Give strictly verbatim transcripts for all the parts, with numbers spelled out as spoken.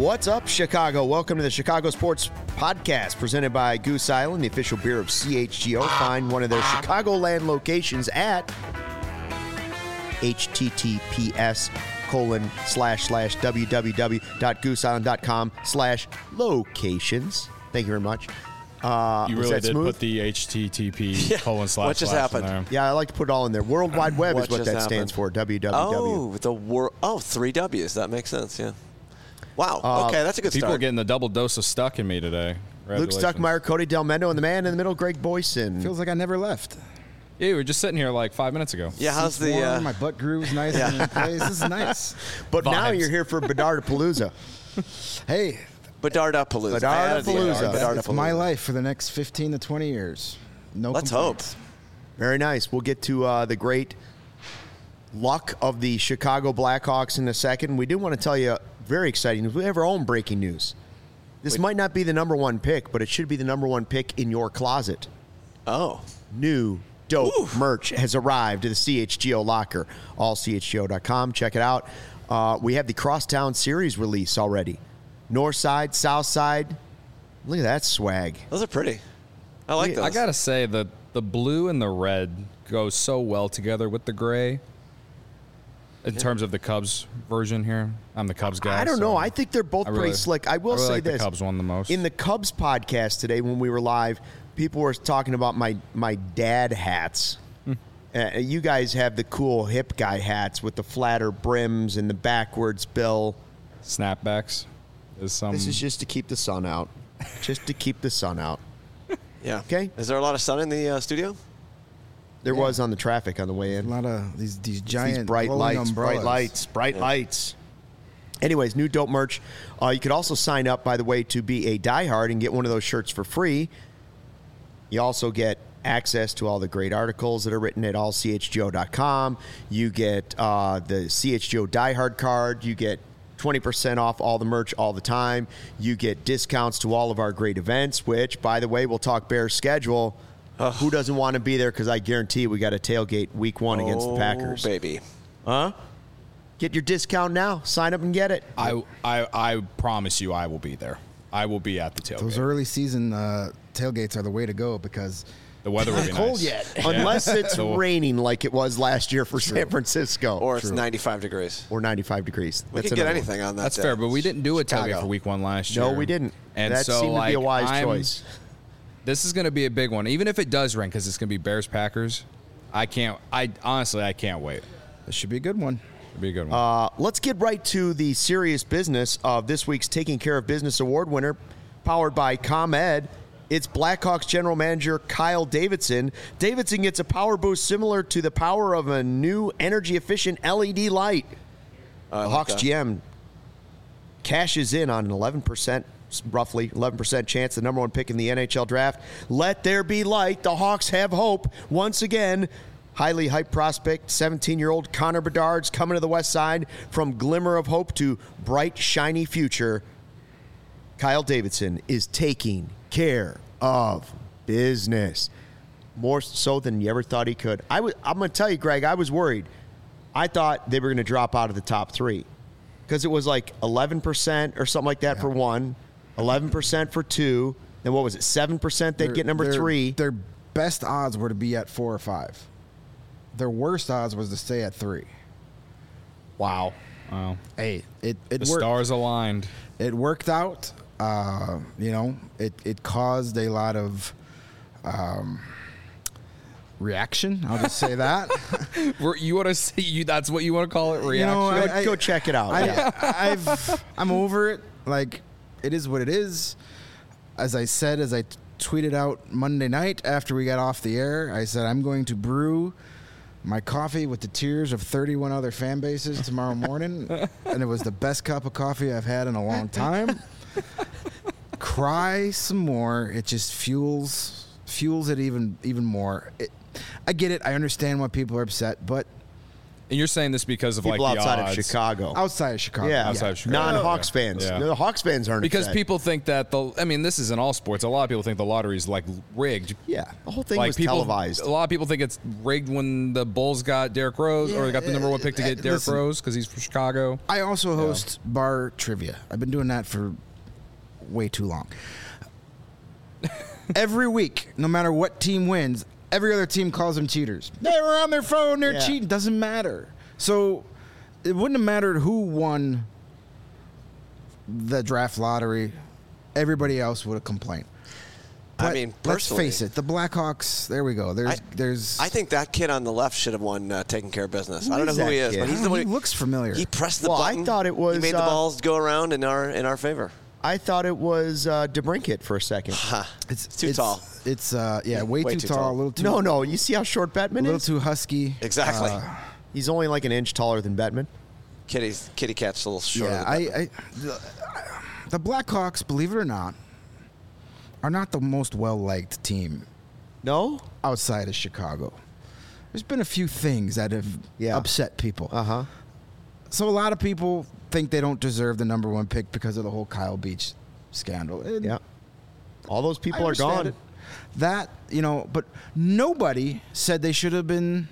What's up, Chicago? Welcome to the Chicago Sports Podcast, presented by Goose Island, the official beer of C H G O. Find one of their Chicagoland locations at https colon slash slash www.gooseisland.com slash locations. Thank you very much. Uh, you really did smooth? Put the H T T P yeah. colon slash What just slash happened? in there. Yeah, I like to put it all in there. World Wide Web what is what that happened? stands for. W W W. Oh, the wor- Oh, three W's. That makes sense. Yeah. Wow. Uh, okay, that's a good People start. are getting the double dose of Stuck in me today. Luke Stuckmeyer, Cody Del Mendo, and the man in the middle, Greg Boyson. Feels like I never left. Yeah, we were just sitting here like five minutes ago. Yeah, how's Seats the warm, uh, my butt groove's nice yeah. in place. This is nice. But Vibes. now you're here for Bedardapalooza. Hey, Bedardapalooza? Bedardapalooza. Bedardapalooza. It's my life for the next fifteen to twenty years. No Let's complaints. hope. Very nice. We'll get to uh, the great luck of the Chicago Blackhawks in a second. We do want to tell you very exciting news. We have our own breaking news. This Wait. might not be the number one pick, but it should be the number one pick in your closet. Oh. New dope Ooh. merch has arrived to the C H G O locker. all C H G O dot com. Check it out. Uh, we have the Crosstown Series release already. North side, south side. Look at that swag. Those are pretty. I like those. I got to say, the, the blue and the red go so well together with the gray. In yeah. terms of the Cubs version here. I'm the Cubs guy. I don't so know. I think they're both really, pretty slick. I will I really say like this. the Cubs one the most. In the Cubs podcast today when we were live, people were talking about my, my dad hats. Hmm. Uh, you guys have the cool hip guy hats with the flatter brims and the backwards bill. Snapbacks. Is some... This is just to keep the sun out. Just to keep the sun out. Yeah. Okay. Is there a lot of sun in the uh, studio? There yeah. was on the traffic on the way in. A lot of these these giant these bright lights, umbrellas. bright lights, bright yeah. lights. Anyways, new dope merch. Uh, you could also sign up, by the way, to be a diehard and get one of those shirts for free. You also get access to all the great articles that are written at all C H G O dot com. You get uh, the C H G O diehard card. You get twenty percent off all the merch all the time. You get discounts to all of our great events, which, by the way, we'll talk Bears schedule. Ugh. Who doesn't want to be there? Because I guarantee we got a tailgate week one oh, against the Packers. Baby. Huh? Get your discount now. Sign up and get it. I, I, I promise you I will be there. I will be at the tailgate. Those early season uh, tailgates are the way to go because the weather will be it's not cold nice. yet. Yeah. Unless it's raining like it was last year for True. San Francisco. Or it's True. ninety-five degrees. Or ninety-five degrees. We That's could get another anything one. on that That's day. fair, but we didn't do a Chicago. tailgate for week one last year. No, we didn't. And that so, seemed like, to be a wise I'm, choice. This is going to be a big one. Even if it does rain, because it's going to be Bears-Packers, I can't, I honestly, I can't wait. This should be a good one. It'll be a good one. Uh, let's get right to the serious business of this week's Taking Care of Business Award winner, powered by ComEd. It's Blackhawks general manager Kyle Davidson. Davidson gets a power boost similar to the power of a new energy-efficient L E D light. Uh, the like Hawks that. G M cashes in on an eleven percent, roughly eleven percent chance, the number one pick in the N H L draft. Let there be light. The Hawks have hope once again. Highly hyped prospect, seventeen-year-old Connor Bedard's coming to the west side from glimmer of hope to bright, shiny future. Kyle Davidson is taking care of business. More so than you ever thought he could. I was, I'm going to tell you, Greg, I was worried. I thought they were going to drop out of the top three because it was like eleven percent or something like that yeah. for one, eleven percent for two, then what was it, seven percent they'd Their- get number their- three. Their best odds were to be at four or five. Their worst odds was to stay at three. Wow. Wow. Hey, it, it The worked. stars aligned. It worked out. Uh, you know, it, it caused a lot of um, reaction. I'll just say that. We're- you want to see you? That's what you want to call it? Reaction. You know, Go, I- go check it out. I, yeah. I've, I'm over it. Like, it is what it is. As I said, as I t- tweeted out Monday night after we got off the air, I said, I'm going to brew my coffee with the tears of thirty-one other fan bases tomorrow morning. And it was the best cup of coffee I've had in a long time. Cry some more. It just fuels fuels it even even more. It, I get it. I understand why people are upset, but And you're saying this because of People like the outside odds. of Chicago. Outside of Chicago. Yeah, Outside of Chicago. non-Hawks Yeah. fans. Yeah. No, the Hawks fans aren't Because upset. people think that the I mean, this is in all sports. A lot of people think the lottery is like rigged. Yeah, the whole thing like was people, televised. A lot of people think it's rigged when the Bulls got Derrick Rose, or they got the number one pick to Yeah, get Derrick listen. Rose because he's from Chicago. I also host bar trivia. I've been doing that for way too long. Every week, no matter what team wins, every other team calls them cheaters. They were on their phone, they're Yeah. cheating. Doesn't matter. So it wouldn't have mattered who won the draft lottery. Everybody else would have complained. I But mean, let's personally- face it, the Blackhawks. There we go. There's, I- there's. I think that kid on the left should have won uh, taking care of business. Who I don't know is who that he is, kid? but he's Oh, the one. he who- looks familiar. He pressed the Well, I button. thought it was, He made the uh, balls go around in our in our favor. I thought it was uh, DeBrincat for a second. Ha. It's too tall. It's uh, yeah, way, Way too, too tall, tall. A little too. No, no. You see how short A Bettman little is? too husky. Exactly. Uh, He's only like an inch taller than Bettman. Kitty's kitty cat's a little shorter. Yeah, than I, that. I the, the Blackhawks, believe it or not, are not the most well-liked team No? outside of Chicago. There's been a few things that have Yeah. upset people. Uh-huh. So a lot of people think they don't deserve the number one pick because of the whole Kyle Beach scandal. And Yeah. All those I people are understand gone. it. That, you know, but nobody said they should have been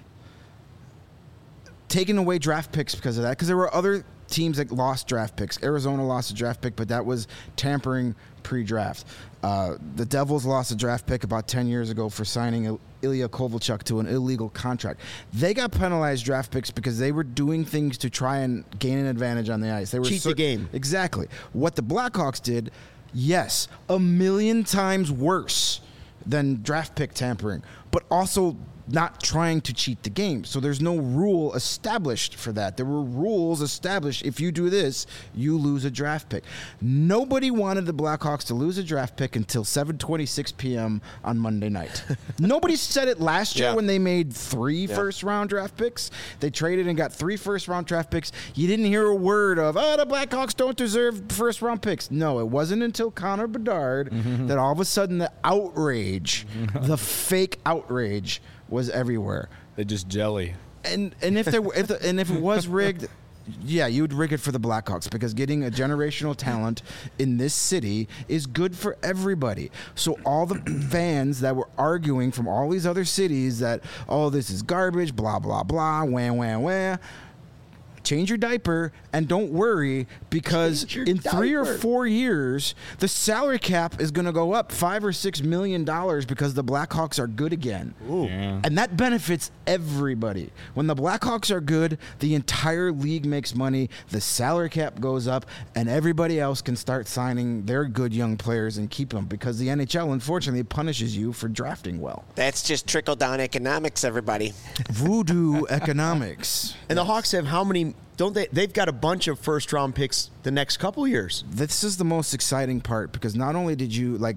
taking away draft picks because of that, because there were other teams that lost draft picks. Arizona lost a draft pick, but that was tampering pre-draft. Uh, the Devils lost a draft pick about ten years ago for signing Il- Ilya Kovalchuk to an illegal contract. They got penalized draft picks because they were doing things to try and gain an advantage on the ice. They were Cheat the cer- game. Exactly. What the Blackhawks did, yes, a million times worse than draft pick tampering, but also not trying to cheat the game. So there's no rule established for that. There were rules established. If you do this, you lose a draft pick. Nobody wanted the Blackhawks to lose a draft pick until seven twenty-six p.m. on Monday night. Nobody said it last year Yeah. when they made three Yeah. first round draft picks. They traded and got three first round draft picks. You didn't hear a word of, oh, the Blackhawks don't deserve first round picks. No, it wasn't until Connor Bedard that all of a sudden the outrage, the fake outrage, was everywhere. They just jelly. And and if there were, if the, and if it was rigged, yeah, you would rig it for the Blackhawks because getting a generational talent in this city is good for everybody. So all the fans that were arguing from all these other cities that, oh, this is garbage, blah blah blah, wah wah wah. Change your diaper and don't worry, because Change your in three or diaper. four years, the salary cap is going to go up five or six million dollars because the Blackhawks are good again. Yeah. And that benefits everybody. When the Blackhawks are good, the entire league makes money, the salary cap goes up, and everybody else can start signing their good young players and keep them, because the N H L, unfortunately, punishes you for drafting well. That's just trickle down economics, everybody. Voodoo economics. And the Hawks have how many? Don't they? They've got a bunch of first round picks the next couple years. This is the most exciting part, because not only did you, like,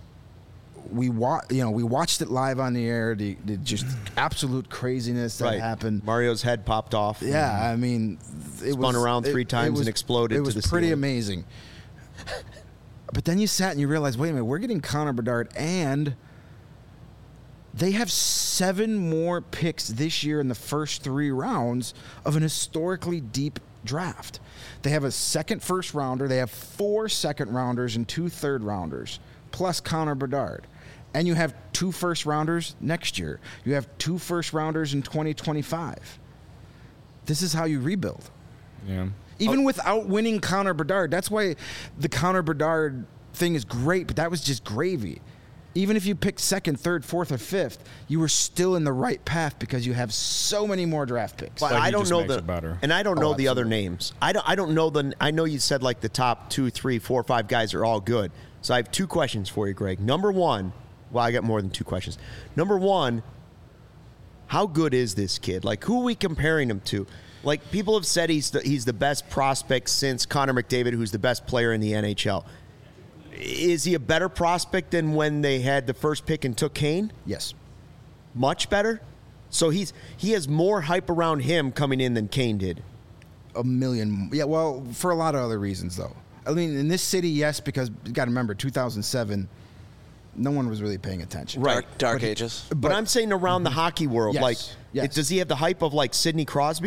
we wa- you know, we watched it live on the air, the, the just absolute craziness that happened. Mario's head popped off. Yeah, I mean, it Spun was, around three it- times it and was- exploded It to was the pretty ceiling. amazing. But then you sat and you realized, wait a minute, we're getting Connor Bedard, and they have seven more picks this year in the first three rounds of an historically deep draft. They have a second first rounder, they have four second rounders and two third rounders, plus Connor Bedard. And you have two first rounders next year. You have two first rounders in twenty twenty-five. This is how you rebuild. Yeah. Even without winning Connor Bedard. That's why the Connor Bedard thing is great, but that was just gravy. Even if you picked second, third, fourth, or fifth, you were still in the right path because you have so many more draft picks. But But he I don't just know makes the it better. and I don't Oh, know the other absolutely. names. I don't. I don't know the. I know you said like the top two, three, four, five guys are all good. So I have two questions for you, Greg. Number one, well, I got more than two questions. Number one, how good is this kid? Like, who are we comparing him to? Like, people have said he's the, he's the best prospect since Connor McDavid, who's the best player in the N H L. Is he a better prospect than when they had the first pick and took Kane? Yes. Much better. So he's he has more hype around him coming in than Kane did. A million. Yeah, well, for a lot of other reasons, though. I mean, in this city, yes, because you got to remember, two thousand seven, no one was really paying attention. Right. Dark, dark But he- ages. But, I'm saying around the hockey world, Yes, like, yes. it- does he have the hype of like Sidney Crosby?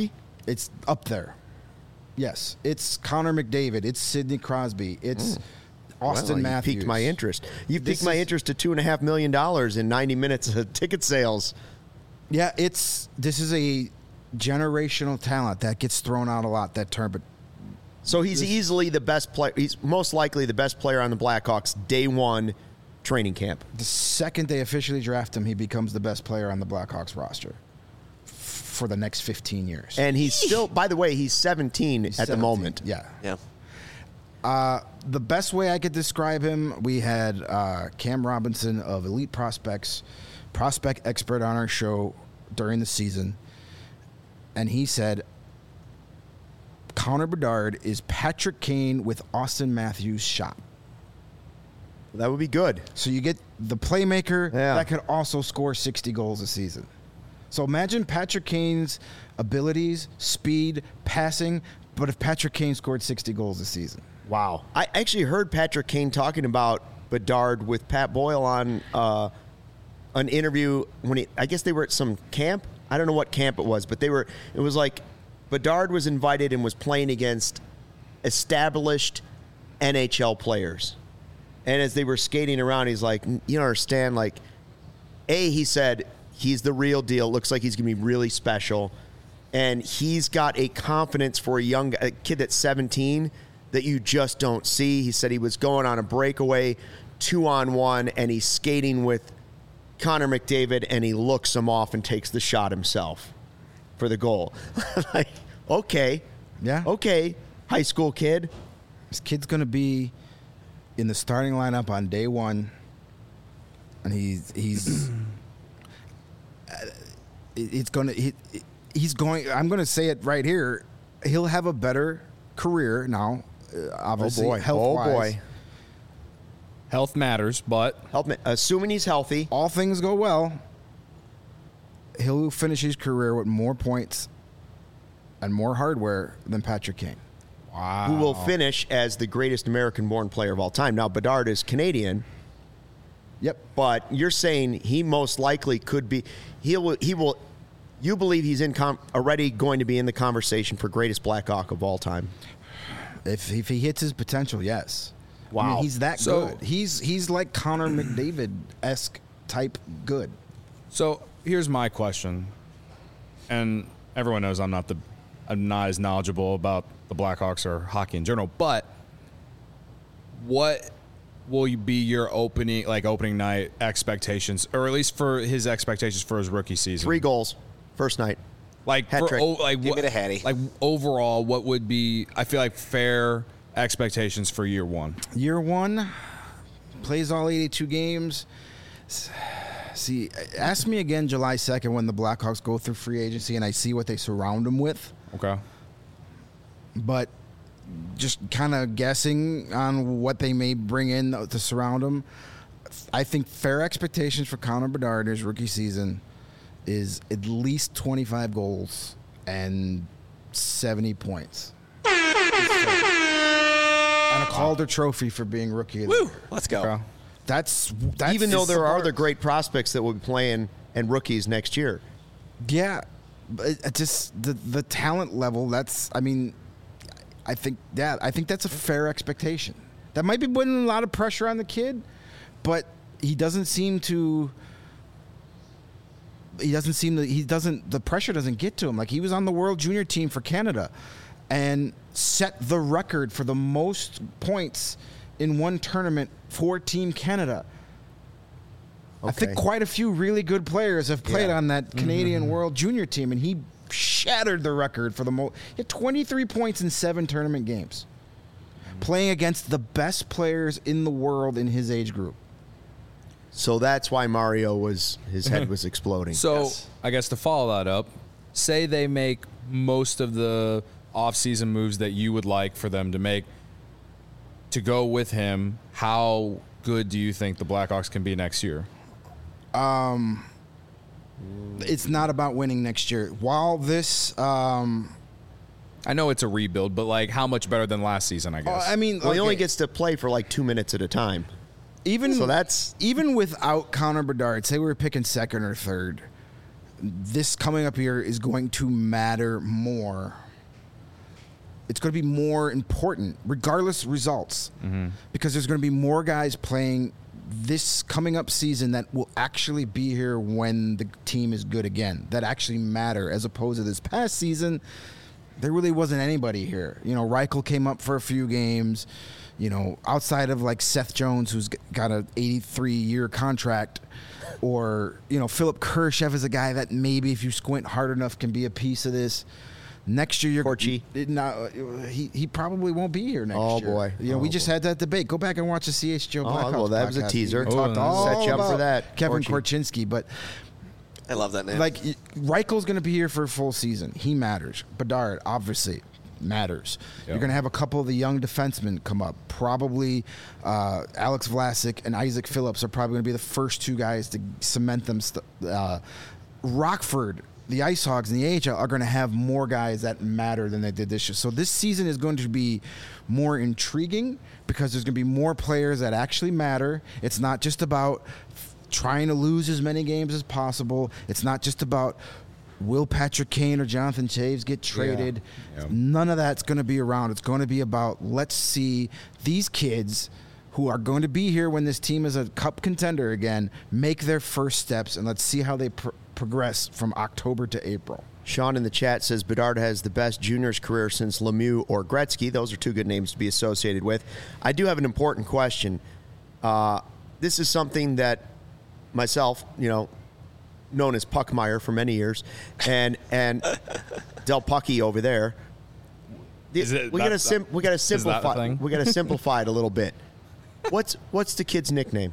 It's up there. Yes, it's Connor McDavid. It's Sidney Crosby. It's Mm. Austin well, you Matthews. piqued my interest. You This piqued my is- interest to two and a half million dollars in ninety minutes of ticket sales. Yeah, it's this is a generational talent that gets thrown out a lot. That term, but So he's easily the best player. He's most likely the best player on the Blackhawks day one training camp. the second they officially draft him, he becomes the best player on the Blackhawks roster f- for the next fifteen years. And he's still, by the way, he's seventeen He's at the seventeen. moment. Yeah. Yeah. Uh, the best way I could describe him, we had uh, Cam Robinson of Elite Prospects, prospect expert on our show during the season, and he said Connor Bedard is Patrick Kane with Austin Matthews' shot. That would be good. So you get the playmaker Yeah. that could also score sixty goals a season. So imagine Patrick Kane's abilities, speed, passing, but if Patrick Kane scored sixty goals a season. Wow. I actually heard Patrick Kane talking about Bedard with Pat Boyle on uh, an interview when he, I guess they were at some camp. I don't know what camp it was, but they were, it was like Bedard was invited and was playing against established N H L players. And as they were skating around, he's like, you don't understand, like, A, he said, he's the real deal. Looks like he's going to be really special. And he's got a confidence for a young a kid that's seventeen that you just don't see. He said he was going on a breakaway, two on one, and he's skating with Connor McDavid, and he looks him off and takes the shot himself for the goal. Like, okay. Yeah. Okay, high school kid. This kid's going to be in the starting lineup on day one, and he's he's it's going to he, he's going. I'm going to say it right here. He'll have a better career now. Uh, obviously, oh boy. health Oh wise. boy. Health matters, but Help me. Assuming he's healthy. All things go well, he'll finish his career with more points and more hardware than Patrick Kane. wow. Who will finish as the greatest American-born player of all time. Now, Bedard is Canadian, Yep. but you're saying he most likely could be. He will. He will. You believe he's in com, already going to be in the conversation for greatest Blackhawk of all time? If if he hits his potential, yes. I Wow. mean, he's that So- good. He's he's like Connor McDavid esque type good. So here's my question, and everyone knows I'm not the I'm not as knowledgeable about the Blackhawks or hockey in general, but what will you be your opening like opening night expectations, or at least for his expectations for his rookie season? Three goals, first night. like Hat for, trick. o- like Give what, me the Hattie. like overall, what would be I feel like fair expectations for year one? Year one, plays all eighty-two games. S- See, ask me again July second when the Blackhawks go through free agency and I see what they surround him with. Okay. But just kind of guessing on what they may bring in to surround him. I think fair expectations for Connor Bedard his rookie season is at least twenty-five goals and seventy points. And a Calder Trophy for being rookie of the year. Let's go. Okay. That's, that's Even though there are smart. other great prospects that will be playing and rookies next year. Yeah, but it, it just the the talent level. That's I mean, I think yeah, I think that's a fair expectation. That might be putting a lot of pressure on the kid, but he doesn't seem to. He doesn't seem to. He doesn't. The pressure doesn't get to him. Like he was on the World Junior team for Canada, and set the record for the most points in one tournament for Team Canada. I think Okay. quite a few really good players have played Yeah. on that Canadian World Junior team, and he shattered the record for the most. He had twenty-three points in seven tournament games, playing against the best players in the world in his age group. So that's why Mario was his head was exploding. So Yes. I guess to follow that up, say they make most of the off-season moves that you would like for them to make to go with him. How good do you think the Blackhawks can be next year? It's not about winning next year. While this, um, I know it's a rebuild, but like how much better than last season? I guess. I mean, well, he only okay, gets to play for like two minutes at a time. even So that's even without Connor Bedard. Say we were picking second or third. this coming up year is going to matter more. It's going to be more important, regardless results, mm-hmm. because there's going to be more guys playing this coming up season that will actually be here when the team is good again, that actually matter, as opposed to this past season, there really wasn't anybody here. You know, Reichel came up for a few games, you know, outside of like Seth Jones, who's got an eighty-three year contract, or, you know, Philip Kershev is a guy that maybe if you squint hard enough can be a piece of this. Next year, you're Corchi. No, he he probably won't be here next Oh, year. boy. You know, Oh, we just boy. had that debate. Go back and watch the C H G O Oh, Blackhawks well, that was a podcast. teaser. We talked Oh, all set you up about for that, Kevin Corchi. Korchinski, but I love that name. like Reichel's going to be here for a full season. He matters. Bedard obviously matters. Yep. You're going to have a couple of the young defensemen come up. Probably uh, Alex Vlasic and Isaac Phillips are probably going to be the first two guys to cement them. St- uh, Rockford, the Ice Hogs in the A H L are going to have more guys that matter than they did this year. So this season is going to be more intriguing because there's going to be more players that actually matter. It's not just about f- trying to lose as many games as possible. It's not just about will Patrick Kane or Jonathan Toews get traded. Yeah. None of that's going to be around. It's going to be about let's see these kids who are going to be here when this team is a cup contender again make their first steps, and let's see how they pr- progress from October to April. Sean in the chat says Bedard has the best juniors career since Lemieux or Gretzky. Those are two good names to be associated with. I do have an important question. Uh, this is something that myself, you know, known as Puckmeyer for many years, and and Del Pucky over there. Is it we that- gotta sim- we gotta is that the simplify. thing? We gotta simplify it a little bit. What's what's the kid's nickname?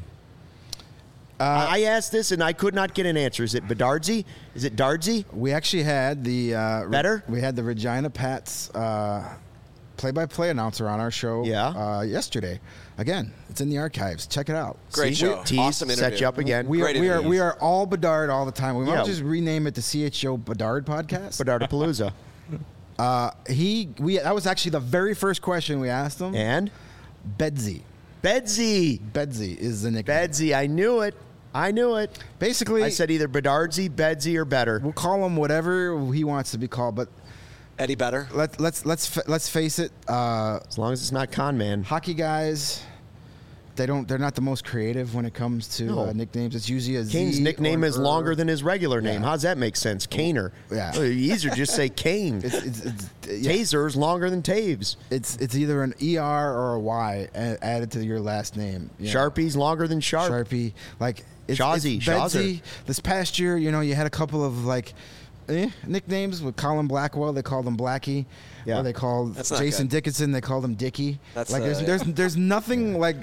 Uh, I asked this and I could not get an answer. Is it Bedardsy? Is it Dardsy? We actually had the uh, Better? We had the Regina Pats uh, play-by-play announcer on our show. Yeah. Uh, yesterday. Again, it's in the archives. Check it out. Great See? show. Tease, Awesome set interview. you up again. We are, Great we are interviews. we are all Bedard all the time. We Yeah. want to just rename it the C H O Bedard podcast. Bedardapalooza. Uh, he we that was actually the very first question we asked him. And Bedsy. Bedsy. Bedsy is the nickname. Bedsy. I knew it. I knew it. Basically, I said either Bedardsy, Bedsy, or better. we'll call him whatever he wants to be called, but Eddie Better. let let's let's fa- let's face it. Uh, As long as it's not con man. hockey guys, they don't. They're not the most creative when it comes to No. uh, nicknames. It's usually a Z Kane's nickname or is an longer er. than his regular name. Yeah. How does that make sense? Kaner. Yeah. Well, easier to just say Kane. It's it's it's, yeah. Taser is longer than Taves. it's it's either an E R or a Y a- added to your last name. you know. Sharpie's longer than Sharp. Sharpie, like it's, Shawzy, it's Bedsy. Shawzer. This past year, you know, you had a couple of like eh, nicknames with Colin Blackwell. They called him Blackie. Yeah. Or they called That's not Jason good. Dickinson. They called him Dickie. That's, like there's uh, there's there's nothing like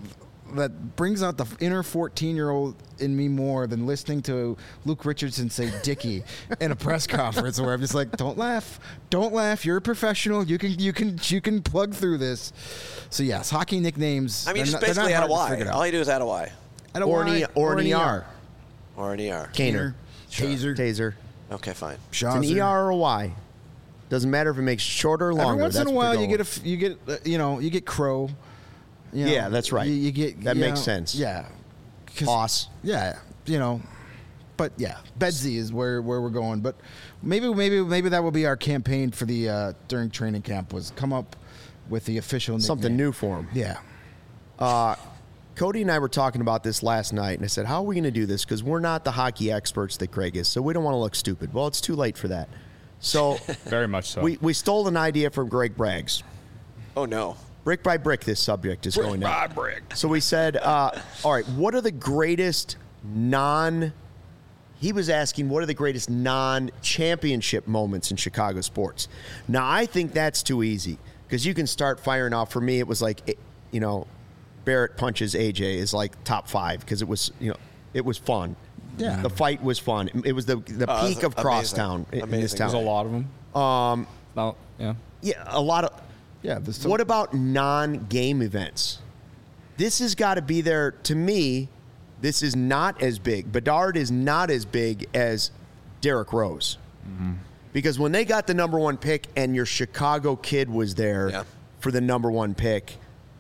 that brings out the inner fourteen year old in me more than listening to Luke Richardson say Dickie in a press conference where I'm just like, don't laugh, don't laugh. You're a professional. You can you can you can plug through this. So yes, hockey nicknames. I mean, they're just not- they're basically not add a hard to Y. figure out. All you do is add a Y Add a Or an Y E- or an E R. or an E R. Kaner. Taser. Taser. Okay, fine. It's an Shawzer. E R or a Y. Doesn't matter if it makes shorter or longer. Every once in That's a what while, they're you get a going f- you get uh, you know you get Crow. You know, Yeah, that's right. You, you get That you makes know, sense. Yeah, 'Cause- Boss. Yeah, you know, but yeah, Bedsy is where, where we're going. But maybe maybe maybe that will be our campaign for the uh, during training camp was come up with the official nickname. Something new for him. Yeah, Uh, Cody and I were talking about this last night, and I said, how are we going to do this? Because we're not the hockey experts that Craig is, so we don't want to look stupid. Well, it's too late for that. So Very much so. we, we stole an idea from Greg Braggs. Oh, no. Brick by brick, this subject is going down. brick. So we said, uh, all right, what are the greatest non... He was asking, what are the greatest non-championship moments in Chicago sports? Now, I think that's too easy because you can start firing off. For me, it was like, it- you know, Barrett punches A J is like top five because it was, you know, it was fun. Yeah. The fight was fun. It was the, the Oh, peak that's of amazing. Crosstown in- in this Amazing. town. There's a lot of them. Um, no, yeah. Yeah, a lot of... yeah. There's some- What about non-game events? This has got to be there. To me, this is not as big. Bedard is not as big as Derrick Rose. Because when they got the number one pick and your Chicago kid was there Yeah. for the number one pick,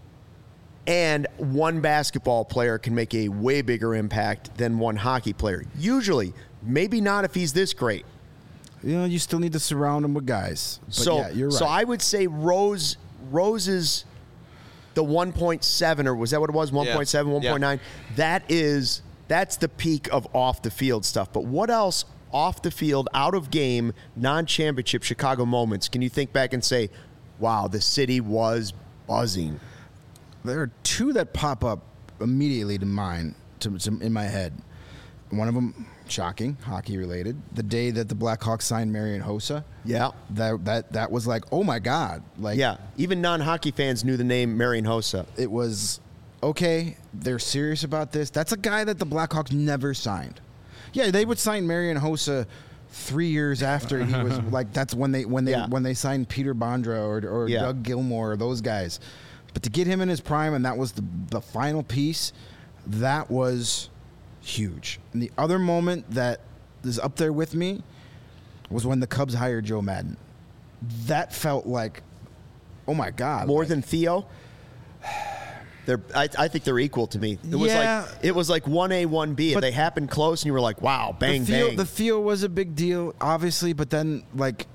and one basketball player can make a way bigger impact than one hockey player. Usually, Maybe not if he's this great. You know, you still need to surround him with guys. But so, yeah, you're right. so I would say Rose, Rose's the one point seven, or was that what it was? one point seven, Yeah. one point nine. Yeah. That is, that's the peak of off the field stuff. But what else off the field, out of game, non-championship Chicago moments can you think back and say, wow, the city was buzzing? There are two that pop up immediately to mind, to, to in my head. One of them, shocking, hockey related. The day that the Blackhawks signed Marian Hossa. Yeah. That that that was like, oh my God. Like, Yeah, even non-hockey fans knew the name Marian Hossa. it was, okay, they're serious about this. That's a guy that the Blackhawks never signed. Yeah, they would sign Marian Hossa three years after he was like, that's when they when they Yeah. when they signed Peter Bondra or, or Yeah. Doug Gilmour or those guys. But to get him in his prime, and that was the the final piece, that was huge. And the other moment that is up there with me was when the Cubs hired Joe Madden. That felt like, oh my God. More like, than Theo? They're, I, I think they're equal to me. It was Yeah. like it was like one A, one B. But- They happened close, and you were like, "Wow, bang, the Theo, bang." The Theo was a big deal, obviously, but then like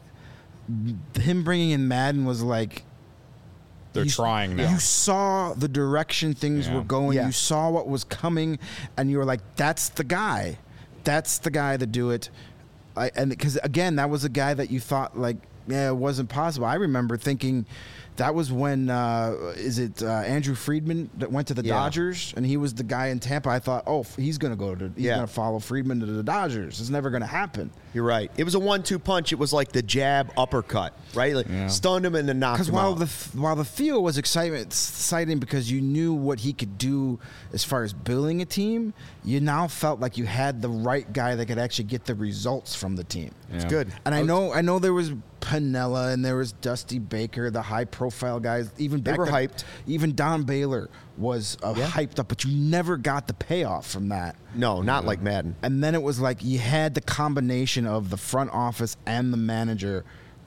him bringing in Madden was like They're you- trying now. You saw the direction things Yeah. were going. Yeah. You saw what was coming, and you were like, "That's the guy. That's the guy to do it." I, and because again, that was a guy that you thought like, yeah, it wasn't possible. I remember thinking. That was when, uh, is it uh, Andrew Friedman that went to the Yeah. Dodgers, and he was the guy in Tampa. I thought, oh, he's going to go to, he's Yeah. going to follow Friedman to the Dodgers. It's never going to happen. You're right. It was a one-two punch. It was like the jab uppercut, right? Like Yeah. stunned him and then knocked Because him while out. the while the Theo was excitement, exciting because you knew what he could do as far as building a team, you now felt like you had the right guy that could actually get the results from the team. It's Yeah. good. And I know I know there was Piniella and there was Dusty Baker, the high profile guys. Even They back were then- hyped. Even Don Baylor was uh, Yeah. hyped up, but you never got the payoff from that. No, not like Madden. And then it was like you had the combination of the front office and the manager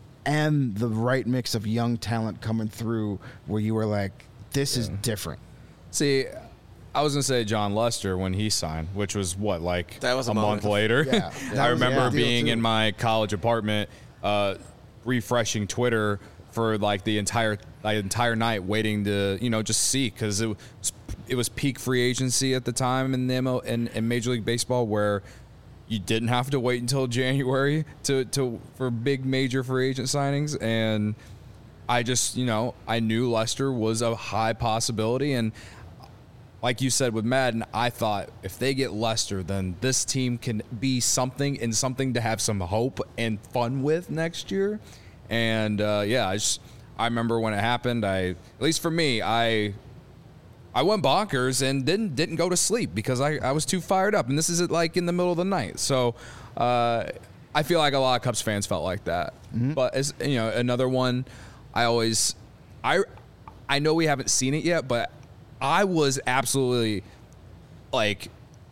and the right mix of young talent coming through where you were like, this is different. See, I was gonna say John Lester when he signed, which was what like That was a a moment. month later. Yeah, that I was a remember big deal, being too. in my college apartment, uh, refreshing Twitter for like the entire like, entire night, waiting to you know just see because it was it was peak free agency at the time in the M L in, in Major League Baseball where you didn't have to wait until January to, to for big major free agent signings. And I just, you know, I knew Lester was a high possibility. And like you said with Madden, I thought if they get Lester, then this team can be something and something to have some hope and fun with next year. And uh, yeah, I just I remember when it happened. I at least for me, I I went bonkers and didn't didn't go to sleep because I, I was too fired up. And this is at like in the middle of the night. So uh, I feel like a lot of Cubs fans felt like that. But as you know, another one, I always I I know we haven't seen it yet, but I was absolutely like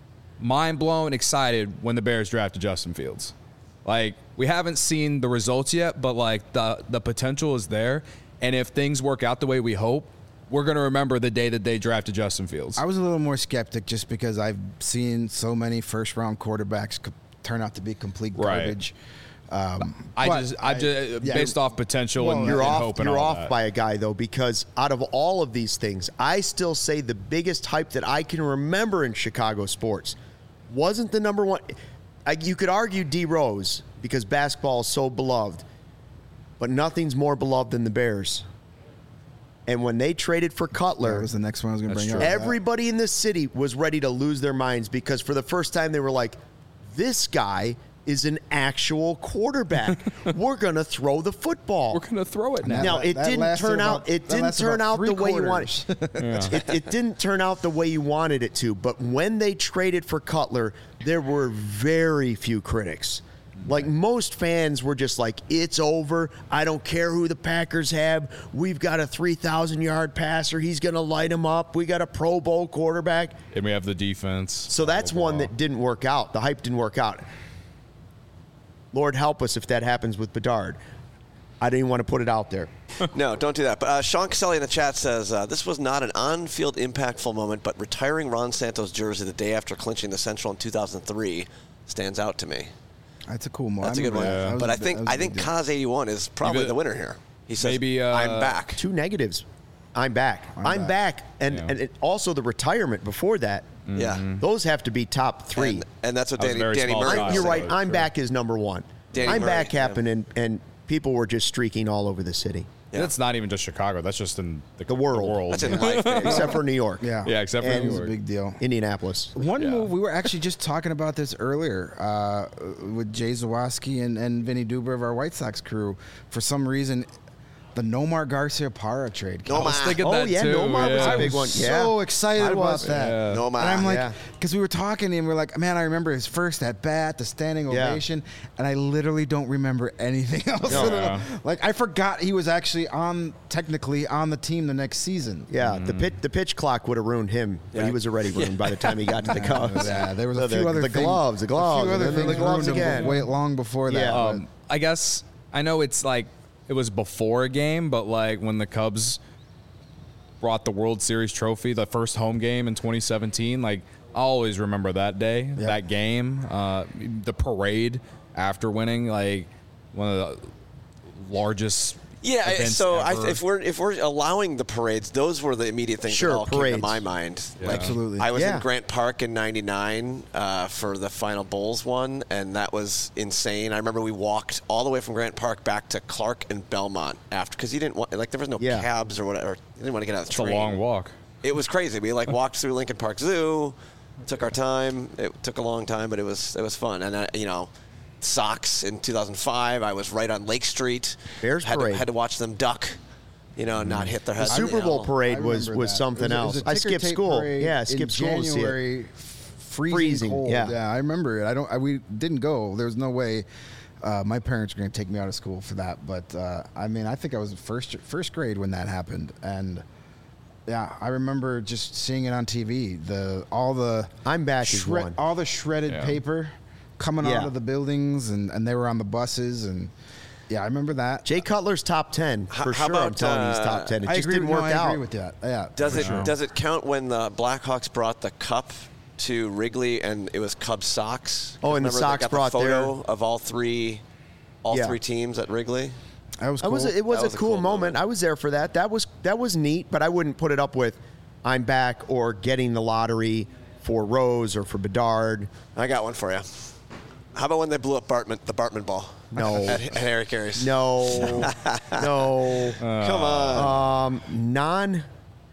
mind blown, excited when the Bears drafted Justin Fields. Like we haven't seen the results yet, but like the the potential is there. And if things work out the way we hope, we're going to remember the day that they drafted Justin Fields. I was a little more skeptic just because I've seen so many first round quarterbacks co- turn out to be complete Right. garbage. Um, I but just, I just, yeah, based off potential well, and, You're and off. hope and You're all off that. by a guy though, because out of all of these things, I still say the biggest hype that I can remember in Chicago sports wasn't the number one. I, you could argue D Rose because basketball is so beloved, but nothing's more beloved than the Bears. And when they traded for Cutler, that was the next one I was going to That's bring true. up. everybody in this city was ready to lose their minds because for the first time they were like, this guy is an actual quarterback. We're going to throw the football. We're going to throw it now. Now, That- it that didn't lasted turn about- out. It that didn't lasted turn about out the three way you quarters. wanted. it, it didn't turn out the way you wanted it to. But when they traded for Cutler, there were very few critics. Like most fans were just like, "It's over. I don't care who the Packers have. We've got a three thousand yard passer. He's going to light him up. We got a Pro Bowl quarterback." And we have the defense. So that's Blah, blah, one blah. that didn't work out. The hype didn't work out. Lord help us if that happens with Bedard. I didn't want to put it out there. No, don't do that. But uh, Sean Caselli in the chat says, uh, this was not an on-field impactful moment, but retiring Ron Santos' jersey the day after clinching the Central in two thousand three stands out to me. That's a cool one. That's a good one. Yeah. But I think I think Kaz eighty-one is probably Even- the winner here. He says, Maybe, uh, I'm back. Two negatives. I'm back. I'm, I'm back. back. And, Yeah. and it, also the retirement before that. Yeah. Those have to be top three. And, and that's what That was Danny, very Danny small Murray size. I'm, you're said. right. True. I'm back is number one. Danny I'm Murray, back yeah. happened, and, and people were just streaking all over the city, Yeah. That's not even just Chicago. That's just in the, The world. That's in life, baby. except for New York. Yeah. Yeah, except for And- New It was a York. big deal. Indianapolis. One Yeah. move, we were actually just talking about this earlier uh, with Jay Zawoski and, and Vinny Duber of our White Sox crew. For some reason, the Nomar Garcia Parra trade. Nomar. I was thinking Oh, that yeah, too. Nomar was yeah. a big one. Yeah. So excited I about was. that. Yeah. No, man. And I'm like, Yeah. because we were talking and we are like, man, I remember his first at bat, the standing Yeah. ovation, and I literally don't remember anything else. No. Yeah. Like I forgot he was actually on, technically on the team the next season. Yeah, the pitch the pitch clock would have ruined him, but Yeah. he was already ruined by the time he got to the Cubs. Yeah, there was a The- few the, other the things, gloves, the gloves, a few other and then things the gloves ruined him again. way long before that. Yeah. but- Um, I guess I know it's like it was before a game, but like when the Cubs brought the World Series trophy, the first home game in twenty seventeen, like I always remember that day, Yeah. that game, uh, the parade after winning, like one of the largest. Yeah, I- events so I, ever. if we're if we're allowing the parades, those were the immediate things Sure, that all came parades. to my mind. Like, Absolutely. I was Yeah. in Grant Park in ninety-nine uh, for the final Bulls one, and that was insane. I remember we walked all the way from Grant Park back to Clark and Belmont after because you didn't want like there was no Yeah. cabs or whatever. You didn't want to get out of the It's a train. long walk. It was crazy. We like walked through Lincoln Park Zoo, took our time. It took a long time, but it was it was fun. And uh, you know, Sox in two thousand five, I was right on Lake Street. Bears had parade. to, had to watch them duck, you know, and not hit their The head. Super you Bowl know. parade I was remember was that. something It was- else. it was a I ticker skipped tape school. parade Yeah, I in skipped school to see it. January, freezing, Freezing, cold. yeah. I remember it. I don't. I, we didn't go. There was no way. Uh, my parents were going to take me out of school for that. But uh, I mean, I think I was in first first grade when that happened, and yeah, I remember just seeing it on T V. The all the I'm back is shred- one. all the shredded Yeah. paper coming Yeah. out of the buildings, and, and they were on the buses, and yeah, I remember that. Jay Cutler's top ten How- for how sure. I'm about, telling you, he's uh, top ten. It I just agree, didn't no, work I out. agree with that. Yeah, Does for it sure. does it count when the Blackhawks brought the cup to Wrigley and it was Cubs Sox? Oh, and the Remember they Sox got brought the photo their- of all three, all Yeah. three teams at Wrigley. That was I cool. was it was That a was a cool, cool moment. moment. I was there for that. That was that was neat, but I wouldn't put it up with I'm back or getting the lottery for Rose or for Bedard. I got one for you. How about when they blew up Bartman, the Bartman ball? No. at, at Harry Carey's. No, no. Come on. Um, non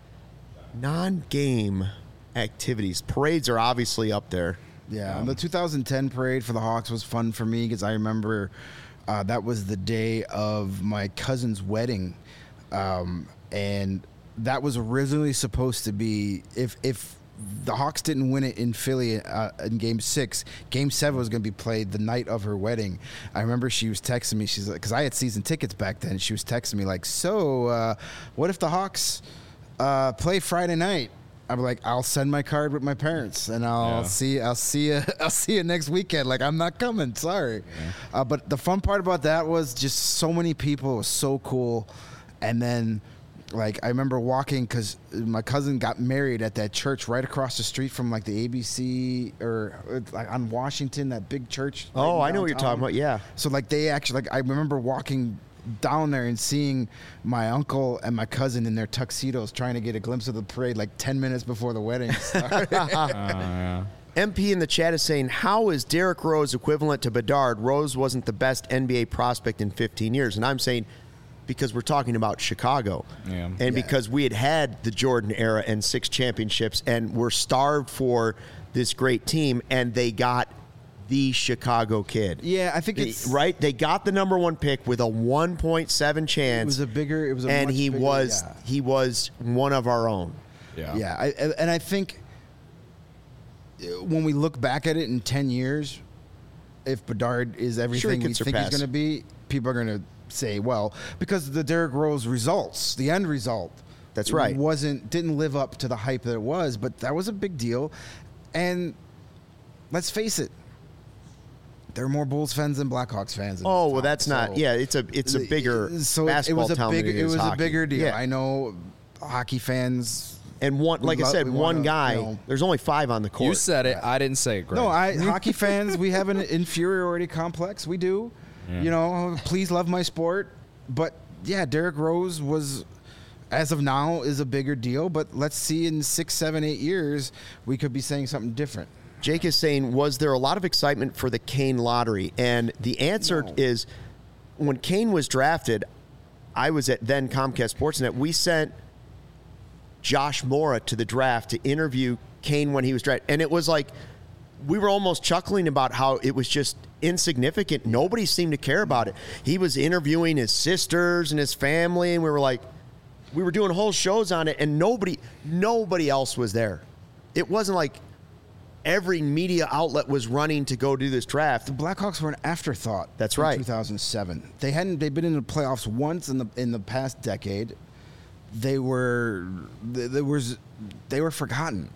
non game activities. Parades are obviously up there. Yeah, the two thousand ten parade for the Hawks was fun for me because I remember uh, that was the day of my cousin's wedding, um, and that was originally supposed to be if if the Hawks didn't win it in Philly uh, in Game Six, Game Seven was going to be played the night of her wedding. I remember she was texting me. She's like, because I had season tickets back then. She was texting me like, "So, uh, what if the Hawks uh, play Friday night?" I'm like, I'll send my card with my parents, and I'll Yeah. see. I'll see you. I'll see you next weekend. Like, I'm not coming. Sorry. Uh, but the fun part about that was just so many people. It was so cool. And then, like, I remember walking because my cousin got married at that church right across the street from like the A B C or uh, like on Washington, that big church. right Oh, in I know what you're downtown. talking about. Yeah. So like they actually like I remember walking down there and seeing my uncle and my cousin in their tuxedos trying to get a glimpse of the parade like ten minutes before the wedding started. M P in the chat is saying, how is Derrick Rose equivalent to Bedard? Rose wasn't the best N B A prospect in fifteen years. And I'm saying, because we're talking about Chicago. Yeah. And Yeah. because we had had the Jordan era and six championships and were starved for this great team, and they got the Chicago kid. Yeah, I think They- it's right. They got the number one pick with a one point seven chance. It was a bigger. It was a and much he bigger- was yeah. he was one of our own. Yeah. Yeah, I, and I think uh, when we look back at it in ten years, if Bedard is everything could we think surpass. he's going to be, people are going to say, well, because the Derrick Rose results, the end result, That's right. wasn't didn't live up to the hype that it was, but that was a big deal. And let's face it, there are more Bulls fans than Blackhawks fans. in Oh this well, town, that's not. so- Yeah, it's a it's a bigger so it- basketball it was a town big, than it it is was hockey. a bigger deal. Yeah. I know hockey fans And one, like I lo- said, we one wanna, guy. you know- There's only five on the court. You said it. I didn't say it, Greg. No, I hockey fans, we have an inferiority complex. We do. Yeah. You know, please love my sport. But yeah, Derrick Rose was, as of now, is a bigger deal. But let's see in six, seven, eight years, we could be saying something different. Jake is saying, was there a lot of excitement for the Kane lottery? And the answer No. is, when Kane was drafted, I was at then Comcast Sportsnet. We sent Josh Mora to the draft to interview Kane when he was drafted. And it was like, we were almost chuckling about how it was just insignificant. Nobody seemed to care about it. He was interviewing his sisters and his family, and we were like, we were doing whole shows on it, and nobody, nobody else was there. It wasn't like every media outlet was running to go do this draft. The Blackhawks were an afterthought. That's in right. two thousand seven. They hadn't. They'd been in the playoffs once in the in the past decade. They were. There was. They were forgotten.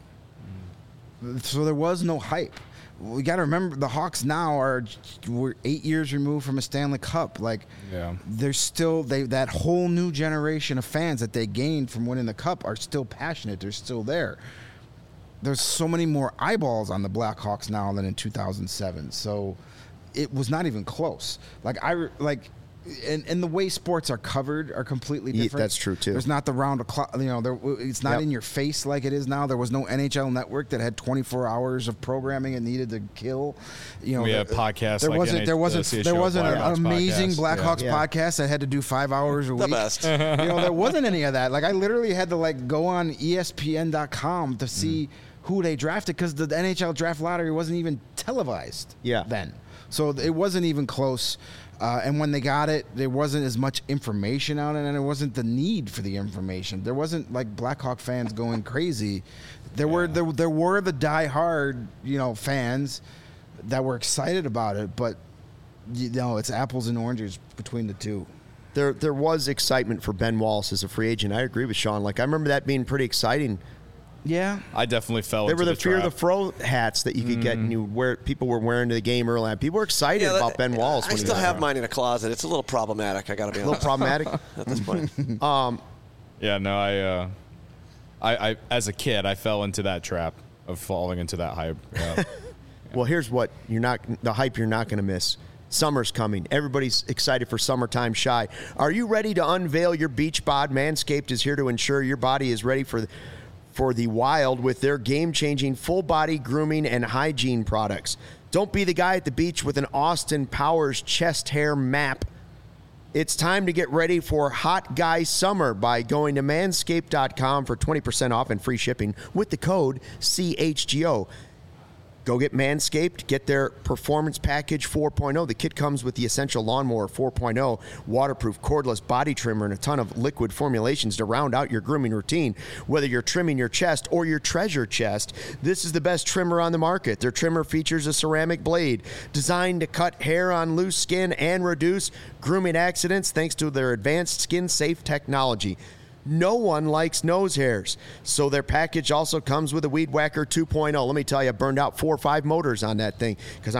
So there was no hype. We got to remember the Hawks now are we're eight years removed from a Stanley Cup. Like, Yeah. there's still they that whole new generation of fans that they gained from winning the Cup are still passionate. They're still there. There's so many more eyeballs on the Blackhawks now than in two thousand seven. So it was not even close. Like I re- like. And, and the way sports are covered are completely Yeah, different. that's true, too. There's not the round of clock. You know, there, it's not Yep. in your face like it is now. There was no N H L network that had twenty-four hours of programming and needed to kill. You know, We the- have podcasts There like wasn't. N H- There wasn't. the There wasn't an Blackhawks amazing podcast. Blackhawks Yeah. podcast that had to do five hours a The week. best. You know, there wasn't any of that. Like I literally had to like go on E S P N dot com to see who they drafted because the N H L draft lottery wasn't even televised. Yeah. Then, so it wasn't even close. Uh, and when they got it, there wasn't as much information on it, and there wasn't the need for the information. There wasn't like Blackhawk fans going crazy. There were there, there were the diehard, you know, fans that were excited about it, but you know, it's apples and oranges between the two. There, there was excitement for Ben Wallace as a free agent. I agree with Sean. Like I remember that being pretty exciting. Yeah, I definitely fell There into were the, the fear of the trap. fro hats that you could get, and you wear. People were wearing to the game early on. People were excited Yeah, about that- Ben Wallace. I when he still was have around. mine in a closet. It's a little problematic. I got to be A little honest problematic. at this point. Yeah, no, I, uh, I, I, as a kid, I fell into that trap of falling into that hype. Yeah. Well, here's what you're not the hype you're not going to miss. Summer's coming. Everybody's excited for summertime shy. Are you ready to unveil your beach bod? Manscaped is here to ensure your body is ready for for the wild with their game-changing full body grooming and hygiene products. Don't be the guy at the beach with an Austin Powers chest hair map. It's time to get ready for Hot Guy Summer by going to manscaped dot com for twenty percent off and free shipping with the code C H G O. Go get Manscaped, get their Performance Package four point oh. The kit comes with the Essential Lawnmower four point oh, waterproof cordless body trimmer, and a ton of liquid formulations to round out your grooming routine. Whether you're trimming your chest or your treasure chest, this is the best trimmer on the market. Their trimmer features a ceramic blade designed to cut hair on loose skin and reduce grooming accidents thanks to their advanced skin-safe technology. No one likes nose hairs, so their package also comes with a Weed Whacker two point oh. Let me tell you, I burned out four or five motors on that thing because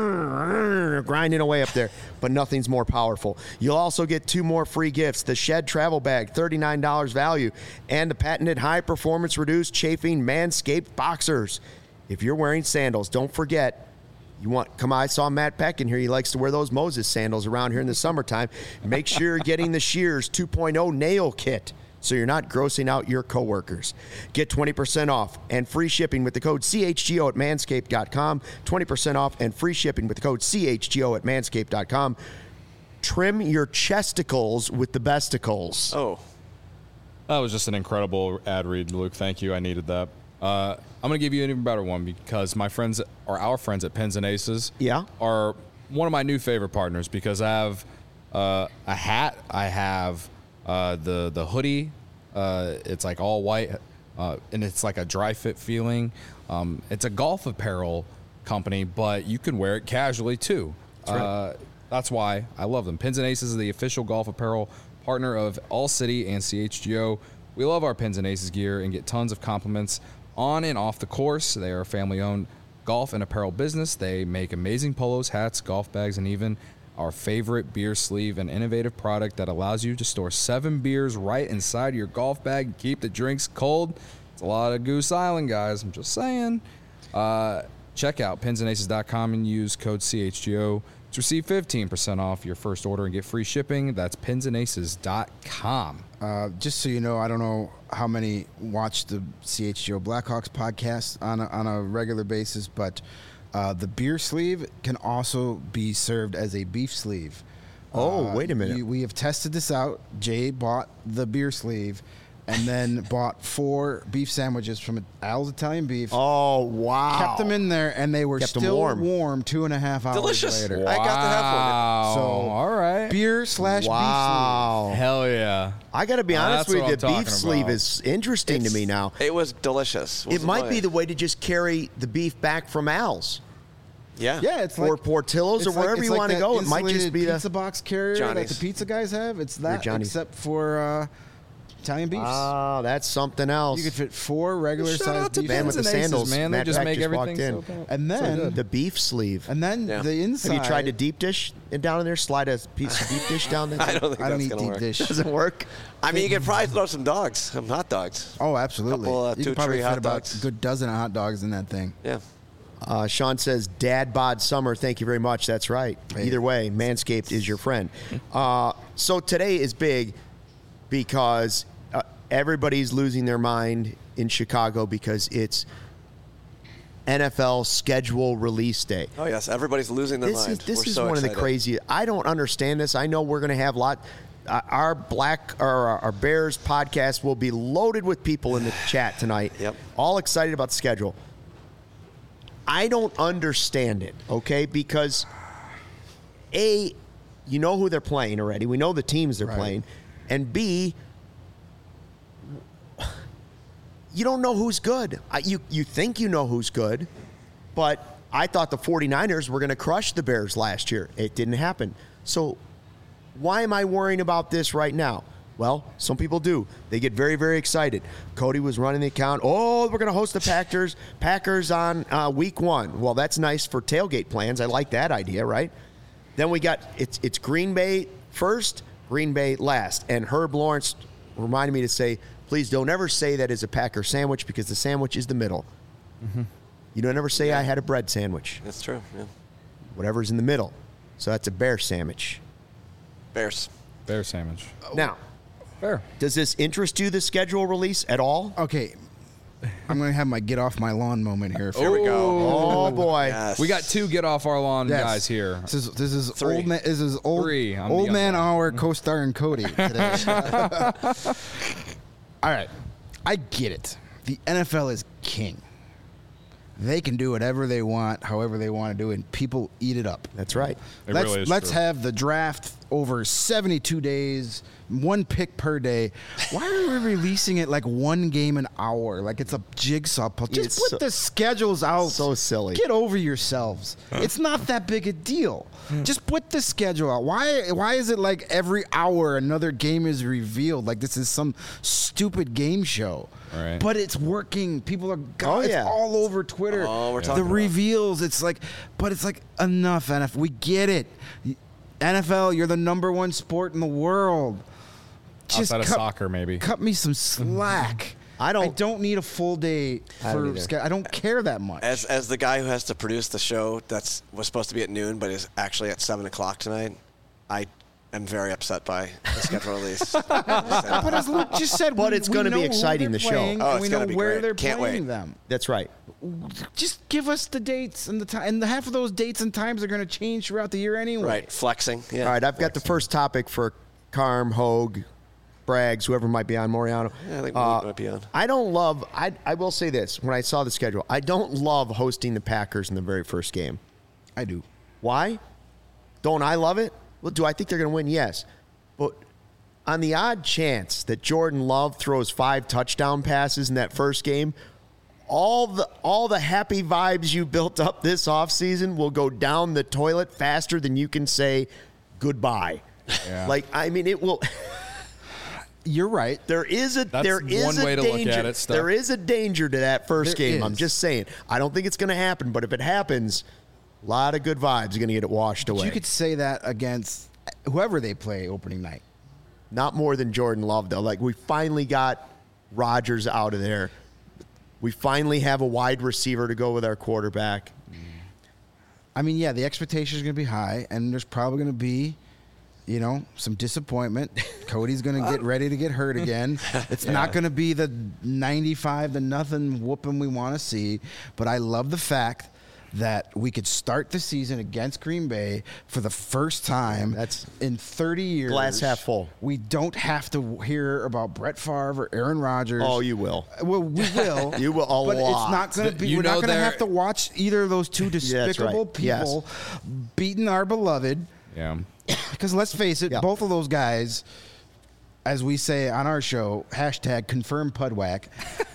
I'm grinding away up there, but nothing's more powerful. You'll also get two more free gifts, the Shed Travel Bag, thirty-nine dollars value, and the patented high-performance reduced chafing Manscaped Boxers. If you're wearing sandals, don't forget, you want, come on, I saw Matt Peck in here. He likes to wear those Moses sandals around here in the summertime. Make sure you're getting the Shears two point oh nail kit, so you're not grossing out your coworkers. Get twenty percent off and free shipping with the code C H G O at manscaped dot com. twenty percent off and free shipping with the code C H G O at manscaped dot com. Trim your chesticles with the besticles. Oh, That was just an incredible ad read, Luke. Thank you. I needed that. Uh, I'm going to give you an even better one because my friends, or our friends at Pins and Aces, Yeah. are one of my new favorite partners because I have uh, a hat, I have uh, the the hoodie. Uh, it's like all white, uh, and it's like a dry fit feeling. Um, it's a golf apparel company, but you can wear it casually too. That's, right. uh, that's why I love them. Pins and Aces is the official golf apparel partner of All City and C H G O. We love our Pins and Aces gear and get tons of compliments on and off the course. They are a family-owned golf and apparel business. They make amazing polos, hats, golf bags, and even our favorite beer sleeve, an innovative product that allows you to store seven beers right inside your golf bag and keep the drinks cold. It's a lot of Goose Island, guys. I'm just saying. Uh, check out pins and aces dot com and use code C H G O to receive fifteen percent off your first order and get free shipping. That's pins and aces dot com. Uh, just so you know, I don't know how many watch the C H G O Blackhawks podcast on a, on a regular basis, but uh, the beer sleeve can also be served as a beef sleeve. Oh, Uh, wait a minute. We, we have tested this out. Jay bought the beer sleeve and then bought four beef sandwiches from Al's Italian Beef. Oh, wow. Kept them in there, and they were Kept 'em still warm. warm. two and a half hours Delicious. later. I got to have one. Wow. So, all right. Beer slash Wow. Hell yeah. I got to be Uh, honest that's with what you. I'm The beef talking sleeve about. is interesting to me now. It was delicious. It Wasn't might be mine. the way to just carry the beef back from Al's Yeah. beef. Yeah, it's or like Portillo's or it's like- wherever it's you like want to that go. It might just insulated be the. pizza box carrier that Johnny's. the pizza guys have. It's that, Johnny's. except for uh, Italian beefs. Oh, that's something else. you could fit four regular Shout out sized to beef. Man with Pins the and Aces, sandals, man. They Matt just Beck make just everything walked in. so bad. And So then good. The beef sleeve. and then Yeah. the inside. Have you tried a deep dish and down in there? Slide a piece of deep dish down there? I don't think I don't that's eat gonna deep work. dish. Doesn't work. I mean, you could probably throw some dogs, some hot dogs. Oh, absolutely. Couple, uh, you two could probably tree fit hot about dogs. a good dozen of hot dogs in that thing. Yeah. Uh, Sean says, Dad bod summer. Thank you very much. That's right. Hey. Either way, Manscaped is your friend. Uh, so today is big because uh, everybody's losing their mind in Chicago because it's N F L schedule release day. Oh yes, everybody's losing their This mind. is this We're is so one of the excited. crazy. I don't understand this. I know we're going to have a lot. Uh, our black or our, our Bears podcast will be loaded with people in the chat tonight. Yep. All excited about the schedule. I don't understand it. Okay, because A, you know who they're playing already. We know the teams they're Right. playing, and B, you don't know who's good. I, you you think you know who's good, but I thought the 49ers were going to crush the Bears last year. It didn't happen. So why am I worrying about this right now? Well, some people do. They get very, very excited. Cody was running the account. Oh, we're going to host the Packers Packers on uh, week one. Well, that's nice for tailgate plans. I like that idea, right? Then we got it's it's Green Bay first, Green Bay last. And Herb Lawrence reminded me to say, please don't ever say that is a Packer sandwich because the sandwich is the middle. Mm-hmm. You don't ever say I had a bread sandwich. That's true. Yeah. Whatever's in the middle. So that's a bear sandwich. Bears. Bear sandwich. Now, Fair. does this interest you, the schedule release, at all? Okay, I'm going to have my get off my lawn moment here. Here we go. Oh, boy. Yes. We got two get off our lawn Yes. guys here. This is this is Three. old man. This is old Three. I'm the old young man guy. hour co-star and Cody today. All right, I get it. The N F L is king. They can do whatever they want, however they want to do it, and people eat it up. That's right. It let's really is let's true. have the draft over seventy-two days, one pick per day. Why are we releasing it like one game an hour? Like it's a jigsaw puzzle. Just It's put so- the schedules out. so silly. Get over yourselves. It's not that big a deal. Just put the schedule out. Why why is it like every hour another game is revealed? Like this is some stupid game show. Right. But it's working. People are Oh, it's yeah. all over Twitter. Oh, we're the talking about it. reveals. It's like, but it's like enough. N F L. We get it. N F L. You're the number one sport in the world. Just Outside of cut, soccer, maybe. cut me some slack. I don't- I don't need a full day I don't for. either. Ske- I don't care that much. As as the guy who has to produce the show that's was supposed to be at noon but is actually at seven o'clock tonight, I am very upset by the schedule release. But as Luke just said, But we- it's we gonna be know who exciting, they're the show. playing, Oh, and it's we gonna know be where great. they're Can't playing wait. them. That's right. Just give us the dates and the time, and the half of those dates and times are going to change throughout the year anyway. Right, flexing. Yeah. All right, I've got the first topic for Carm, Hogue, Braggs, whoever might be on, Moriano. Yeah, I think Uh, we might be on. I don't love, I, I will say this, when I saw the schedule, I don't love hosting the Packers in the very first game. I do. Why? Don't I love it? Well, do I think they're going to win? Yes. But on the odd chance that Jordan Love throws five touchdown passes in that first game, all the all the happy vibes you built up this offseason will go down the toilet faster than you can say goodbye. Yeah. Like, I mean, it will. You're right. There is a That's there is one a way to look danger. at it, Stuck. There is a danger to that first There game. I'm is. just saying. I don't think it's going to happen, but if it happens, a lot of good vibes are going to get it washed away. You could say that against whoever they play opening night. Not more than Jordan Love, though. Like, we finally got Rodgers out of there. We finally have a wide receiver to go with our quarterback. I mean, yeah, the expectation is going to be high, and there's probably going to be, you know, some disappointment. Cody's going to get ready to get hurt again. It's yeah. not going to be the ninety-five to nothing whooping we want to see, but I love the fact that we could start the season against Green Bay for the first time That's in thirty years. Glass half full. We don't have to hear about Brett Favre or Aaron Rodgers. Oh, you will. Well, we will. You will a but lot. it's not going to be. You we're not going to they're- have to watch either of those two despicable right. people beating our beloved. Yeah. Because let's face it, Yeah. both of those guys, as we say on our show, hashtag confirm Pudwack.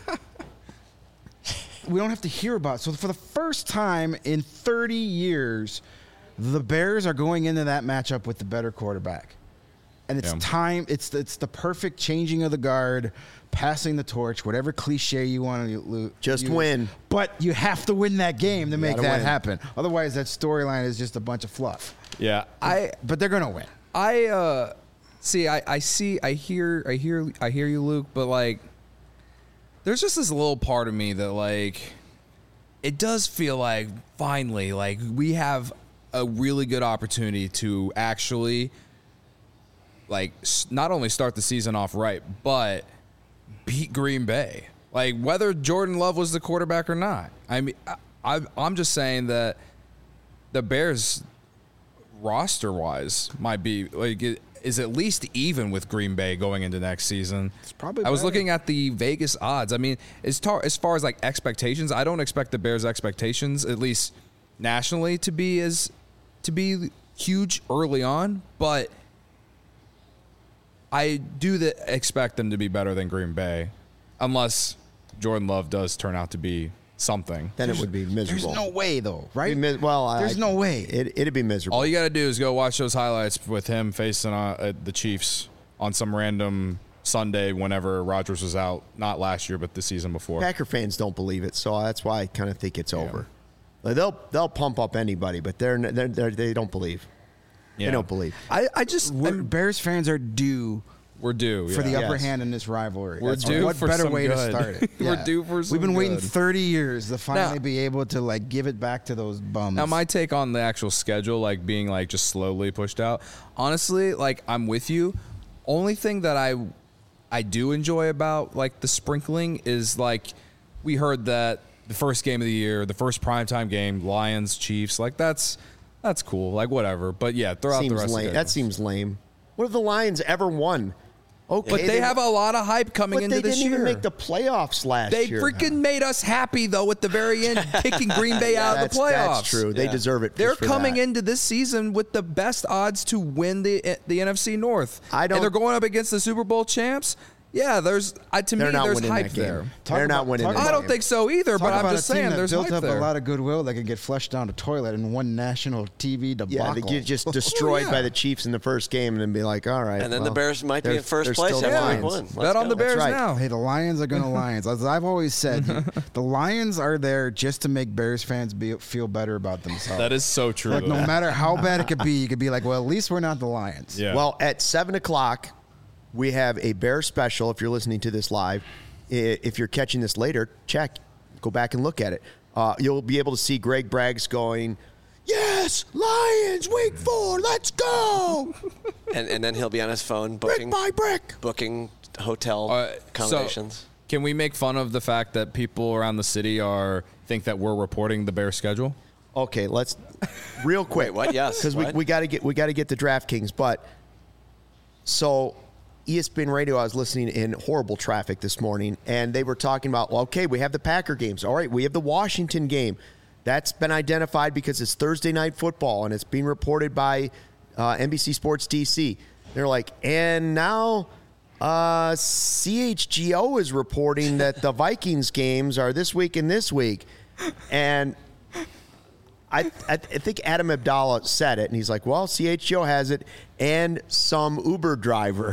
We don't have to hear about it. So for the first time in thirty years, the Bears are going into that matchup with the better quarterback. And it's Yeah. time, it's it's the perfect changing of the guard, passing the torch, whatever cliche you want to Just use. win. But you have to win that game to make gotta that win. happen. Otherwise, that storyline is just a bunch of fluff. Yeah. I But they're going to win. I uh see I, I see I hear I hear I hear you, Luke, but like there's just this little part of me that like it does feel like finally like we have a really good opportunity to actually like s- not only start the season off right, but beat Green Bay. Like whether Jordan Love was the quarterback or not. I mean I, I I'm just saying that the Bears roster wise might be like it is at least even with Green Bay going into next season. It's probably I was better. looking at the Vegas odds. I mean, as tar, as far as like expectations, I don't expect the Bears' expectations, at least nationally, to be as to be huge early on, but I do the, expect them to be better than Green Bay, unless Jordan Love does turn out to be something. Then it would be There's miserable. no way, though, right? Be mis- well, There's I- no way. It, it'd be miserable. All you got to do is go watch those highlights with him facing uh, uh, the Chiefs on some random Sunday whenever Rodgers was out, not last year, but the season before. Packer fans don't believe it, so that's why I kind of think it's over. Like, they'll they'll pump up anybody, but they're, they're, they're they don't believe. Yeah. They don't believe. I, I just We're- I'm- Bears fans are due We're due for the yeah. upper Yes. hand in this rivalry. We're That's- due What for better some way to good. start it? We're due for some We've been waiting good. thirty years to finally Now- be able to like give it back to those bums. Now, my take on the actual schedule, like being like just slowly pushed out, honestly, like I'm with you. Only thing that I I do enjoy about like the sprinkling is like we heard that the first game of the year, the first primetime game, Lions, Chiefs, like that's that's cool, like whatever. But yeah, throw out the Seems rest lame. of That the seems lame. What have the Lions ever won? Okay, but they have a lot of hype coming but into they this didn't year. even make the playoffs last They year. freaking made us happy though at the very end, kicking Green Bay out of that's, the playoffs. That's true. They Yeah. deserve it. They're for coming that. into this season with the best odds to win the the N F C North. I don't- And they're going up against the Super Bowl champs. Yeah, there's uh, to They're me not there's winning hype that game. there. Talk They're not about- winning. talk that I game. don't think so either, Talk but I'm about just a team saying that there's built hype up there. a lot of goodwill that could get flushed down the toilet in one national T V debacle. Yeah, they get just destroyed yeah. by the Chiefs in the first game, and then be like, all right. And then well, the Bears might be they're- in first they're place still the after week Lions. one. Let's Bet on the go. Bears right. now. Hey, the Lions are going to Lions. As I've always said, the Lions are there just to make Bears fans be, feel better about themselves. That is so true. Like, no though. matter how bad it could be, you could be like, well, at least we're not the Lions. Yeah. Well, at seven o'clock, we have a Bear special. If you're listening to this live, I- if you're catching this later, check, go back and look at it. Uh, you'll be able to see Greg Braggs going, "Yes, Lions, week four, let's go, And, and then he'll be on his phone brick booking by brick." booking hotel Uh, so- accommodations. Can we make fun of the fact that people around the city are think that we're reporting the Bears schedule? Okay, let's real quick. Wait, what? Yes, because we, what? we got to get we got to get the DraftKings. But so E S P N Radio, I was listening in horrible traffic this morning, and they were talking about, well, okay, we have the Packer games. All right, we have the Washington game. That's been identified because it's Thursday night football, and it's being reported by uh, N B C Sports D C. They're like, and now uh, C H G O is reporting that the Vikings games are this week and this week. And I, I I think Adam Abdallah said it, and he's like, well, C H G O has it, and some Uber driver.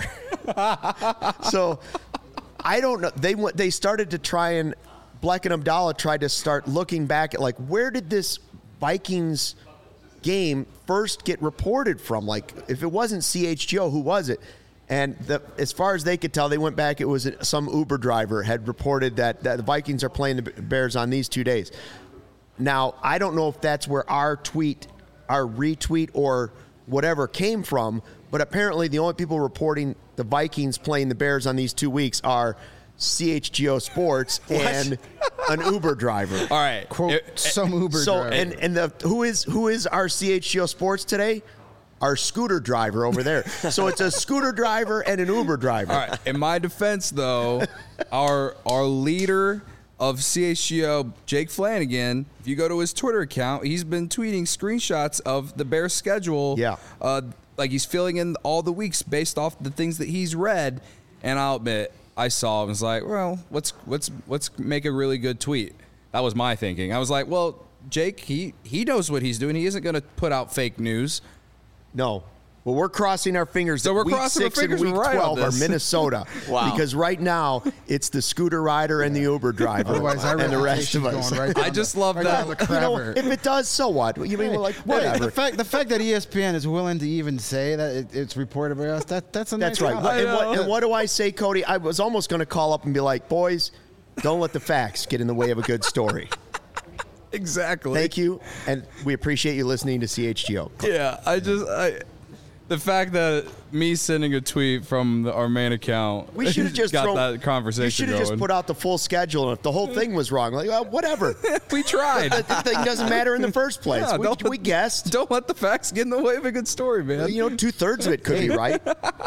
So I don't know. They went, they started to try and Black and Abdallah tried to start looking back at like, where did this Vikings game first get reported from? Like, if it wasn't C H G O, who was it? And the, as far as they could tell, they went back. It was some Uber driver had reported that, that the Vikings are playing the Bears on these two days. Now, I don't know if that's where our tweet, our retweet, or whatever came from, but apparently the only people reporting the Vikings playing the Bears on these two weeks are C H G O Sports and an Uber driver. All right. Quote, It- some Uber So driver. and and the who is who is our C H G O Sports today? Our scooter driver over there. So it's a scooter driver and an Uber driver. All right. In my defense, though, our our leader of C H G O, Jake Flanagan, if you go to his Twitter account, he's been tweeting screenshots of the Bears schedule. Yeah. Uh, like he's filling in all the weeks based off the things that he's read. And I'll admit, I saw him. I was like, well, let's let's let's make a really good tweet. That was my thinking. I was like, well, Jake, he he knows what he's doing. He isn't going to put out fake news. No. Well, we're crossing our fingers. So that we're week crossing our six fingers and week we're right on twelve are this. Minnesota. Wow. Because right now it's the scooter rider and the Uber driver Otherwise, our and the rest of reputation's us. going right down I just the- love right that. down the You know, crapper. if it does, so what? You mean, like, whatever. The fact, the fact that E S P N is willing to even say that it, it's reported by us, that, that's a That's nice right. outlet. And what, know. and what do I say, Cody? I was almost going to call up and be like, boys, don't let the facts get in the way of a good story. Exactly. Thank you, and we appreciate you listening to C H G O. Yeah, I just I, the fact that me sending a tweet from the, our main account, We should have just got thrown, that conversation We should have going. just put out the full schedule, and if the whole thing was wrong, like, well, whatever. we tried. The thing doesn't matter in the first place. Yeah, we, don't- we guessed. Don't let the facts get in the way of a good story, man. You know, two thirds of it could be right.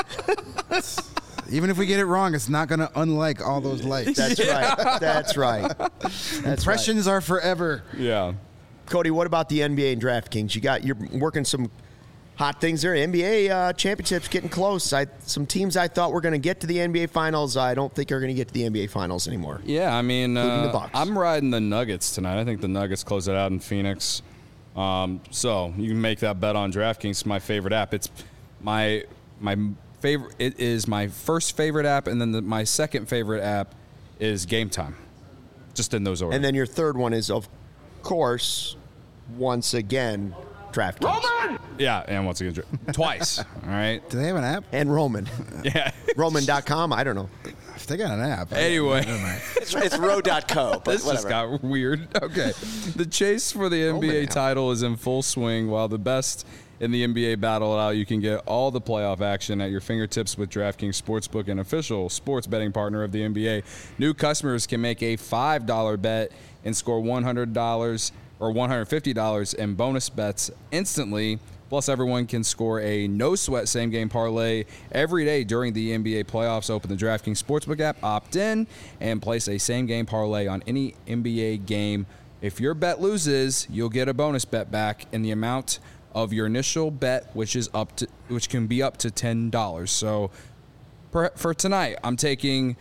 Even if we get it wrong, it's not going to unlike all those likes. That's right. That's right. That's right. Impressions are forever. yeah. Cody, what about the N B A and DraftKings? You got you're working some hot things there. N B A uh, championships getting close. I, some teams I thought were going to get to the N B A finals, I don't think are going to get to the N B A finals anymore. Yeah, I mean, Including the uh, Bucks. I'm riding the Nuggets tonight. I think the Nuggets close it out in Phoenix. Um, so you can make that bet on DraftKings. It's my favorite app. It's my my favorite. It is my first favorite app, and then the, my second favorite app is Game Time. Just in those orders. And then your third one is, of course, once again, DraftKings. yeah, and once again, dra- twice. All right. Do they have an app? And Roman. Yeah. Roman dot com, I don't know. If they got an app. Anyway. It's, it's row dot co, but This just whatever. got weird. Okay. The chase for the N B A Roman. title is in full swing, while the best in the N B A battle it out. You can get all the playoff action at your fingertips with DraftKings Sportsbook, an official sports betting partner of the N B A. New customers can make a five dollar bet and score one hundred dollars or one hundred fifty dollars in bonus bets instantly. Plus, everyone can score a no-sweat same-game parlay every day during the N B A playoffs. Open the DraftKings Sportsbook app, opt in, and place a same-game parlay on any N B A game. If your bet loses, you'll get a bonus bet back in the amount of your initial bet, which is up to, which can be up to ten dollars. So, for, for tonight, I'm taking.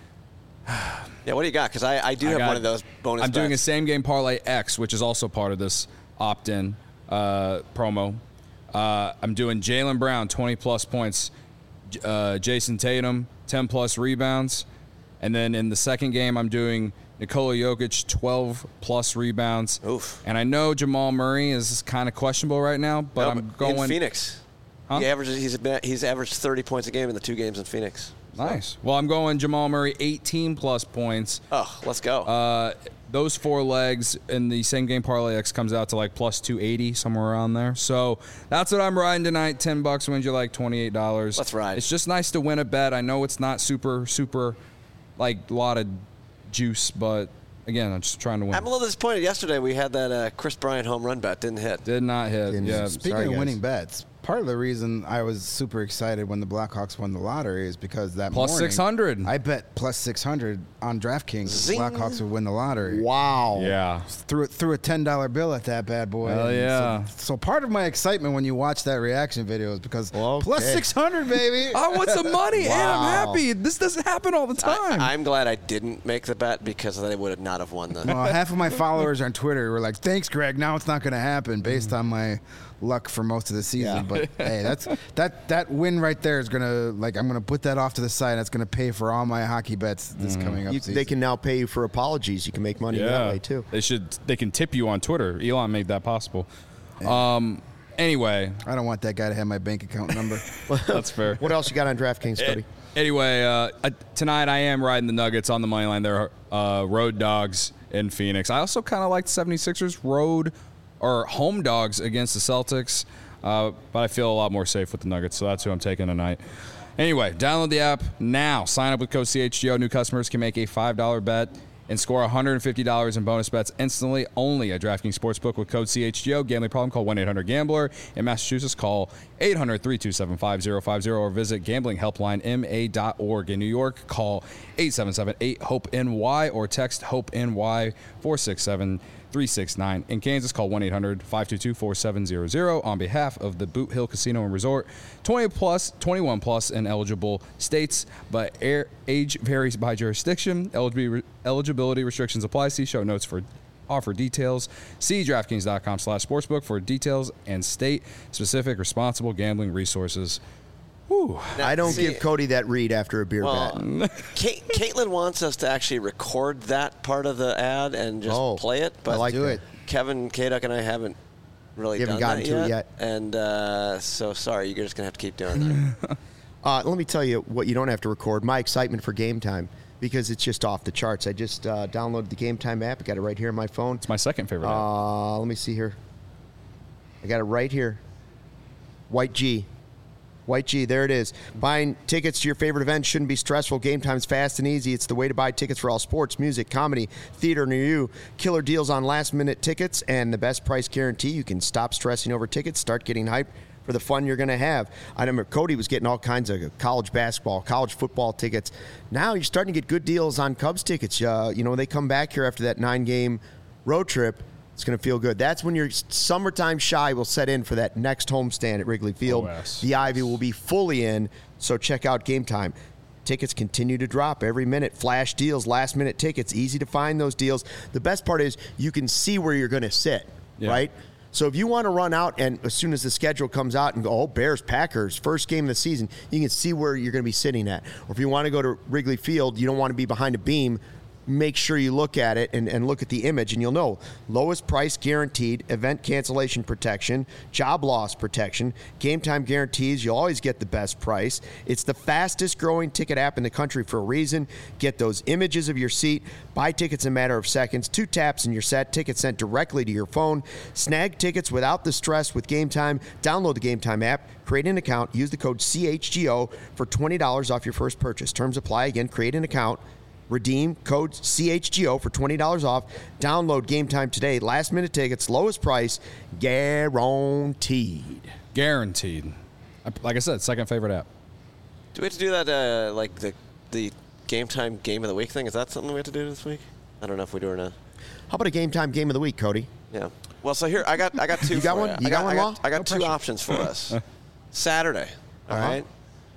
Yeah, what do you got? Because I, I do I have got- one of those bonus I'm doing a bets. same game parlay X, which is also part of this opt-in uh, promo. Uh, I'm doing Jaylen Brown twenty plus points, J- uh, Jason Tatum ten plus rebounds, and then in the second game I'm doing Nikola Jokic twelve plus rebounds. Oof. And I know Jamal Murray is kind of questionable right now, but No, I'm going in Phoenix. Huh? He averages. He's been- he's averaged thirty points a game in the two games in Phoenix. nice. Well, I'm going Jamal Murray eighteen plus points. Oh, let's go. Uh, those four legs in the same game parlay X comes out to like plus two eighty, somewhere around there. So that's what I'm riding tonight. ten bucks wins you like twenty-eight dollars. Let's ride. It's just nice to win a bet. I know it's not super, super, like a lot of juice, but again, I'm just trying to win. I'm a little disappointed. Yesterday we had that uh, Chris Bryant home run bet. Didn't hit. Did not hit. Didn't- Yeah. Speaking Sorry, of guys. winning bets, part of the reason I was super excited when the Blackhawks won the lottery is because that Plus morning, six hundred. I bet plus six hundred on DraftKings. Zing. The Blackhawks would win the lottery. Wow. Yeah. Threw it threw a ten dollar bill at that bad boy. Hell And yeah. So, so part of my excitement when you watch that reaction video is because Okay. plus six hundred, baby. I want some money, and I'm Wow. happy. This doesn't happen all the time. I, I'm glad I didn't make the bet because they would have not have won the. Well, half of my followers on Twitter were like, "Thanks, Greg. Now it's not going to happen," based on my luck for most of the season. Yeah. But hey, that's that that win right there is gonna like I'm gonna put that off to the side. That's gonna pay for all my hockey bets this coming up You, season. they can now pay you for apologies. You can make money that way too. They should. They can tip you on Twitter. Elon made that possible. Um, anyway, I don't want that guy to have my bank account number. that's fair. What else you got on DraftKings, Cody? Anyway, uh, uh, tonight I am riding the Nuggets on the money line. They're uh, road dogs in Phoenix. I also kind of like the seventy-sixers road or home dogs against the Celtics, uh, but I feel a lot more safe with the Nuggets, so that's who I'm taking tonight. Anyway, download the app now. Sign up with code C H G O. New customers can make a five dollar bet and score one hundred fifty dollars in bonus bets instantly only at DraftKings Sportsbook with code C H G O. Gambling problem? Call one eight hundred gambler. In Massachusetts, call eight hundred, three two seven, five zero five zero or visit gambling helpline m a dot org. In New York, call eight seven seven, eight, hope N Y or text HOPE-NY four six seven, three six nine. In Kansas, call one eight hundred, five two two, four seven zero zero. On behalf of the Boot Hill Casino and Resort, twenty plus, twenty-one plus in eligible states, but air, age varies by jurisdiction. Eligibility, eligibility restrictions apply. See show notes for offer details. See DraftKings.com slash sportsbook for details and state-specific responsible gambling resources. Whew. I don't see- give Cody that read after a beer Well, bet. Kate, Caitlin wants us to actually record that part of the ad and just Oh, play it, but I like do that. it. Kevin Kaduk and I haven't really You haven't done gotten that to it yet, yet. and uh, so sorry, you're just gonna have to keep doing that. Uh, let me tell you what you don't have to record. My excitement for Game Time, because it's just off the charts. I just uh, downloaded the Game Time app. I got it right here on my phone. It's my second favorite. app. Uh, let me see here. I got it right here. White G. White G, there it is. Buying tickets to your favorite event shouldn't be stressful. Game Time's fast and easy. It's the way to buy tickets for all sports, music, comedy, theater near you. Killer deals on last-minute tickets and the best price guarantee. You can stop stressing over tickets, start getting hyped for the fun you're going to have. I remember Cody was getting all kinds of college basketball, college football tickets. Now you're starting to get good deals on Cubs tickets. Uh, you know, they come back here after that nine-game road trip. It's going to feel good. That's when your summertime shy will set in for that next homestand at Wrigley Field. Oh, yes. The Ivy will be fully in, so check out Game Time. Tickets continue to drop every minute. Flash deals, last-minute tickets. Easy to find those deals. The best part is you can see where you're going to sit, Yeah. right? So if you want to run out and as soon as the schedule comes out and go, oh, Bears, Packers, first game of the season, you can see where you're going to be sitting at. Or if you want to go to Wrigley Field, you don't want to be behind a beam, make sure you look at it and, and look at the image, and you'll know lowest price guaranteed, event cancellation protection, job loss protection, Game Time guarantees. You'll always get the best price. It's the fastest growing ticket app in the country for a reason. Get those images of your seat, buy tickets in a matter of seconds, two taps and you're set. Tickets sent directly to your phone. Snag tickets without the stress with Game Time. Download the Game Time app, create an account, use the code C H G O for twenty dollars off your first purchase. Terms apply. Again, create an account. Redeem code C H G O for twenty dollars off. Download Game Time today. Last minute tickets, lowest price, guaranteed. Guaranteed. I- Like I said, second favorite app. Do we have to do that, uh, like the the Game Time Game of the Week thing? Is that something we have to do this week? I don't know if we do or not. How about a Game Time game of the week, Cody? Yeah. Well, so here I got I got two. You got for one? You. You I got one, I Law? got, I got No two pressure. options for us. Saturday. All Uh-huh. right.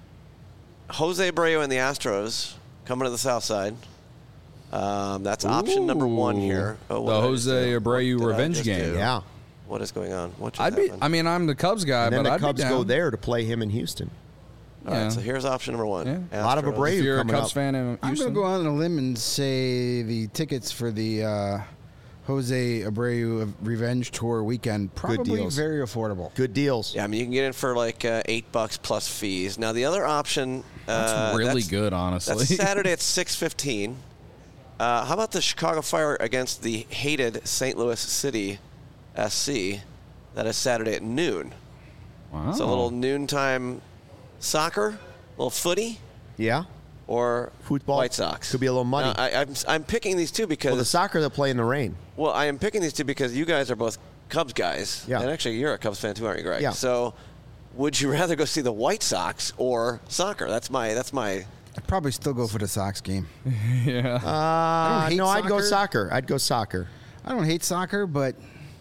Jose Abreu and the Astros coming to the South Side. Um, that's option number one here. Oh, what The did I just Jose do? Abreu What did I revenge just game. do? Yeah. What is going on? What just I'd be. happened? I mean, I'm the Cubs guy, And then but the I'd Cubs be go down. there to play him in Houston. All right, Yeah. so here's option number one. Yeah. A lot of Astros. Abreu If you're a coming Cubs up. fan in I'm going Houston, to go on a limb and say the tickets for the uh, Jose Abreu Revenge Tour weekend probably deals. very affordable. Good deals. Yeah, I mean you can get in for like uh, eight bucks plus fees. Now the other option. that's uh, really that's- good, honestly. That's Saturday at six fifteen. Uh, how about the Chicago Fire against the hated Saint Louis City S C? That is Saturday at noon. Wow. So a little noontime soccer, a little footy, Yeah. or Football. White Sox. Could be a little muddy. Now, I, I'm, I'm picking these two because Well, the soccer they'll play in the rain. well, I am picking these two because you guys are both Cubs guys. Yeah. And actually, you're a Cubs fan too, aren't you, Greg? Yeah. So, would you rather go see the White Sox or soccer? That's my. That's my. I'd probably still go for the Sox game. yeah. Uh, hate no, I'd go soccer. soccer. I'd go soccer. I don't hate soccer, but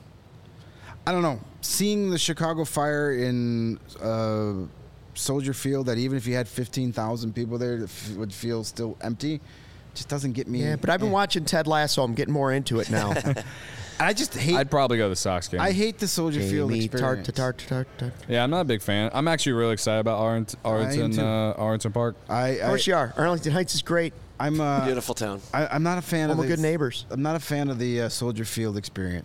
I don't know. Seeing the Chicago Fire in uh, Soldier Field, that even if you had fifteen thousand people there, it f- would feel still empty, just doesn't get me. Yeah, but I've been eh. watching Ted Lasso. I'm getting more into it now. I just hate. I'd probably go the Sox game. I hate the Soldier Field Jamie experience. tart, tart, tart, tart. Yeah, I'm not a big fan. I'm actually really excited about Arlington, Arlington, too. uh, Arlington Park. I, Of I, course you are. Arlington Heights is great. I'm uh, Beautiful town. I, I'm not a fan All of the the good neighbors. I'm not a fan of the uh, Soldier Field experience.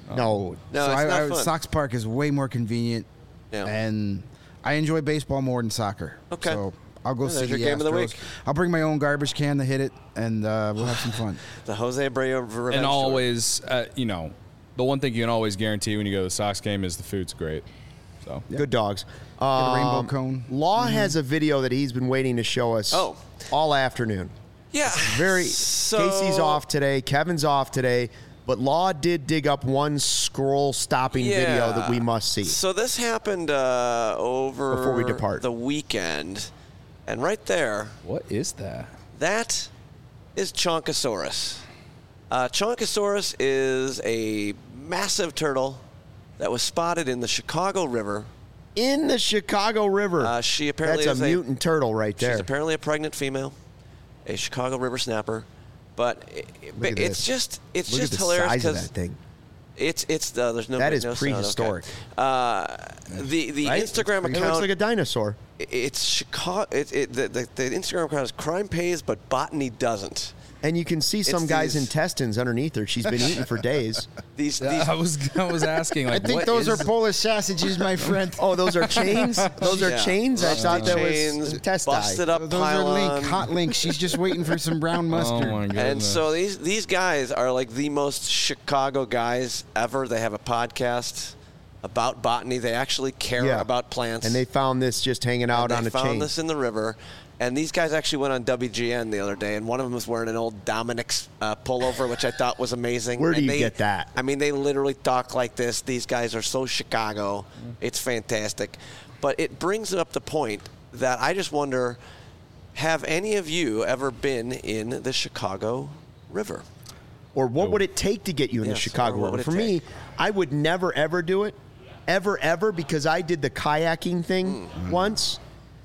No. No, so it's I, not I, fun. Sox Park is way more convenient, Yeah. and I enjoy baseball more than soccer. Okay. So I'll go Yeah, see there's the your game of the Astros. week. I'll bring my own garbage can to hit it, and uh, we'll have some fun. The Jose Abreu revenge And tour. always, uh, you know, the one thing you can always guarantee when you go to the Sox game is the food's great. So Good dogs. a rainbow Um, cone. Law has a video that he's been waiting to show us Oh. all afternoon. Yeah. Very. So- Casey's off today. Kevin's off today. But Law did dig up one scroll stopping video that we must see. So this happened uh, over Before we depart. the weekend, and right there, what is that? that is Chonkosaurus. Uh, Chonkosaurus is a massive turtle that was spotted in the Chicago River. In the Chicago River. Uh, she apparently That's is a a- mutant turtle right there. She's apparently a pregnant female, a Chicago River snapper. But it, Look at it's this. just it's Look just at the hilarious size of because that thing. it's it's uh, there's no That is no sound, okay. prehistoric. Uh, the the Right? Instagram It looks account like a dinosaur. it's Chicago. It, it, the, the, the Instagram account is crime pays, but botany doesn't. And you can see some It's guy's these- intestines underneath her. She's been eating for days. These, Yeah, these I was I was asking I like think what those is- are Polish sausages, my friend. Oh, those are chains? Those are Yeah. chains? I Rusty thought that chains, was test busted up Those are Link, pylon. hot Link. She's just waiting for some brown Oh mustard. my goodness. And so these these guys are like the most Chicago guys ever. They have a podcast about botany. They actually care Yeah. about plants. And they found this just hanging out And on they a found chain. this in the river. And these guys actually went on W G N the other day, and one of them was wearing an old Dominic's uh, pullover, which I thought was amazing. Where do And you they- get that? I mean, they literally talk like this. These guys are so Chicago. It's fantastic. But it brings up the point that I just wonder, have any of you ever been in the Chicago River? Or what would it take to get you in Yes, the Chicago or what River? would it For me, take? I would never, ever do it. Ever, ever, because I did the kayaking thing Hmm. once.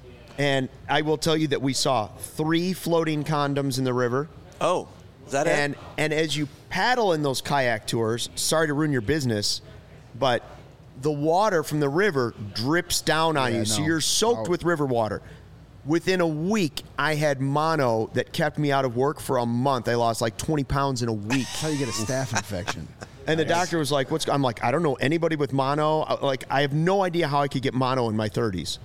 And I will tell you that we saw three floating condoms in the river. Oh, is that And it? and as you paddle in those kayak tours, sorry to ruin your business, but the water from the river drips down on Yeah, you. So no. you're soaked Oh. with river water. Within a week, I had mono that kept me out of work for a month. I lost like twenty pounds in a week. That's how you get a staph infection. And the doctor was like, "What's?" I'm like, "I don't know anybody with mono. I- Like, I have no idea how I could get mono in my thirties."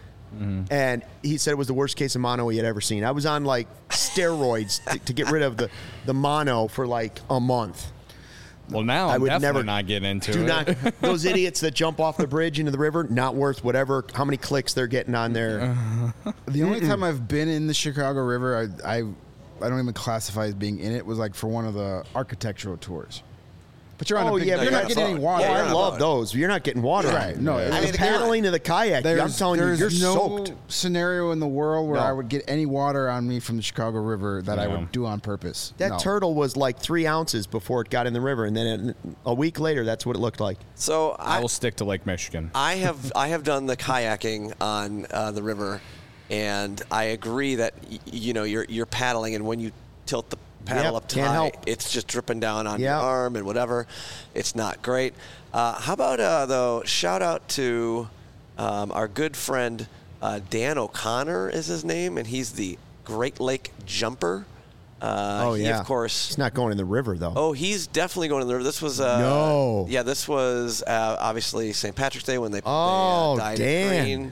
And he said it was the worst case of mono he had ever seen. I was on like steroids to, to get rid of the, the mono for like a month. well, now I I'm would definitely never not getting into Do it. not those idiots that jump off the bridge into the river. Not worth whatever how many clicks they're getting on there. The only time I've been in the Chicago River, I, I I don't even classify as being in it, was like for one of the architectural tours. But you're on Oh, a big, yeah, you're but not that's getting any all- water. Yeah, Oh, you're I on a love boat. those. You're not getting water. Right. on. No, I I mean, mean, paddling to the kayak. I'm There's, telling you, there's you're no soaked. scenario in the world where No. I would get any water on me from the Chicago River that I Yeah. would do on purpose. That No. turtle was like three ounces before it got in the river, and then it, a week later, that's what it looked like. So I I, will stick to Lake Michigan. I have I have done the kayaking on uh, the river, and I agree that y- you know you're you're paddling, and when you tilt the paddle Yep, up can't high, help. it's just dripping down on Yeah. your arm and whatever. It's not great. Uh, how about uh, though? Shout out to um, our good friend uh, Dan O'Connor is his name, and he's the Great Lake Jumper. Uh, Oh he, yeah, of course. he's not going in the river though. Oh, he's definitely going to the river. This was uh, No. Yeah, this was uh, obviously Saint Patrick's Day when they, Oh, they uh, dyed Dan. it green,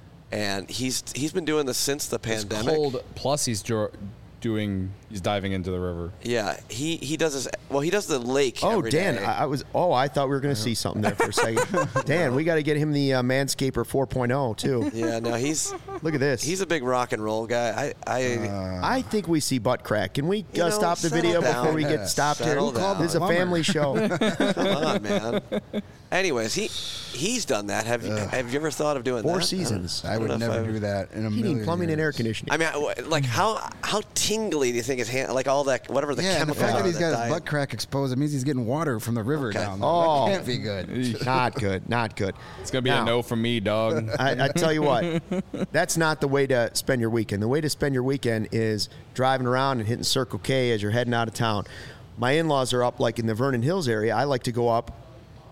and he's he's been doing this since the It's pandemic. cold. Plus, he's dro- doing. He's diving into the river. Yeah, he he does this. Well, he does the lake. Oh, every Dan, day. I, I was. Oh, I thought we were going to see something there for a second. Dan, we got to get him the uh, Manscaper four point oh too. yeah, no, he's Look at this. he's a big rock and roll guy. I I I think we see butt crack. Can we You uh, know, stop the settle video down. before we Yeah, get stopped here? settle down. This is a Plumber. family show. come on, man. Anyways, he he's done that. Have you have you ever thought of doing Four that? seasons. I would don't know if never I've- do that in a Heating, million plumbing, and years. air conditioning. I mean, I- like how how tingly do you think his hand? Like all that, whatever the Yeah, and the chemicals fact are that he's got dye his it. butt crack exposed, it means he's getting water from the river Okay. down there. Oh. That can't be good. Not good. Not good. It's gonna be Now, a no from me, dog. I, I tell you what, that's not the way to spend your weekend. The way to spend your weekend is driving around and hitting Circle K as you're heading out of town. My in-laws are up like in the Vernon Hills area. I like to go up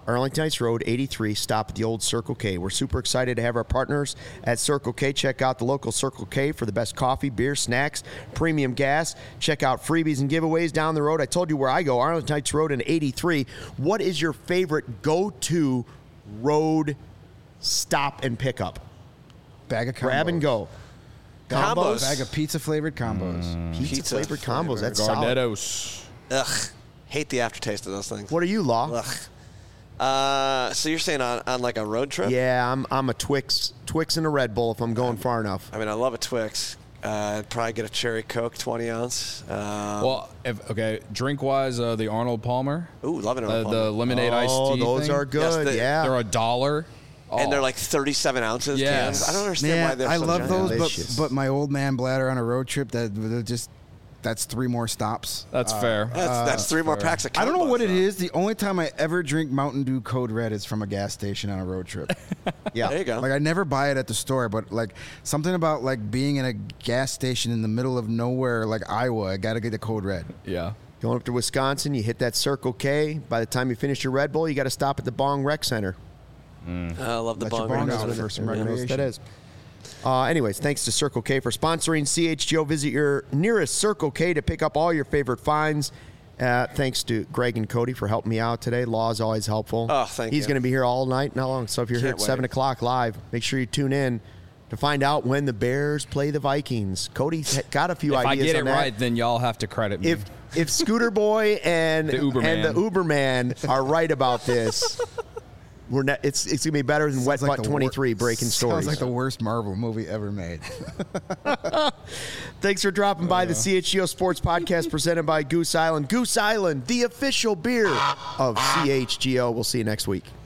Arlington Heights Road, eighty-three. Stop at the old Circle K. We're super excited to have our partners at Circle K. Check out the local Circle K for the best coffee, beer, snacks, premium gas. Check out freebies and giveaways down the road. I told you where I go, Arlington Heights Road and eighty-three. What is your favorite go-to road stop and pickup? Bag of combos. Grab and go. Combos. Bag of pizza flavored combos. Pizza, Pizza flavored combos. That's solid. Gardettos. Ugh. Hate the aftertaste of those things. What are you, Law? Ugh. Uh, so you're saying on, on like a road trip? Yeah, I'm I'm a Twix, Twix and a Red Bull if I'm going far enough. I mean, I love a Twix. Uh, I'd probably get a cherry Coke, twenty ounce. Uh, Well, if, okay, drink wise, uh, the Arnold Palmer, ooh, love it. uh, the lemonade iced Oh, tea. those thing, are good. Yes, the- yeah. They're a dollar. and they're Oh. like thirty-seven ounces Yes. cans. I don't understand why Man, they're I so love giant. those, Delicious. but but my old man bladder on a road trip that that just that's three more stops. That's fair. That's, that's three more packs of I don't know combos, what it though. is. The only time I ever drink Mountain Dew Code Red is from a gas station on a road trip. yeah. There you go. Like I never buy it at the store, but like something about like being in a gas station in the middle of nowhere, like Iowa, I gotta get the Code Red. Yeah. Going up to Wisconsin, you hit that Circle K. By the time you finish your Red Bull, you got to stop at the Bong Rec Center. I love the Let your bong. bong Rec out Center. for some Yeah. recreation. That is. Uh, anyways, thanks to Circle K for sponsoring C H G O. Visit your nearest Circle K to pick up all your favorite finds. Uh, thanks to Greg and Cody for helping me out today. Law is always helpful. Oh, thank He's you. going to be here all night and how long. So if you're here Can't at seven wait. o'clock live, make sure you tune in to find out when the Bears play the Vikings. Cody's got a few If I ideas get on it that. right, then y'all have to credit me. If if Scooter Boy and The Uberman. and the Uberman are right about this, we're not, it's it's gonna be better than Wet Sounds like Butt the twenty-three wor- breaking stories. Sounds like the worst Marvel movie ever made. Thanks for dropping by the C H G O Sports Podcast presented by Goose Island. Goose Island, the official beer of C H G O. We'll see you next week.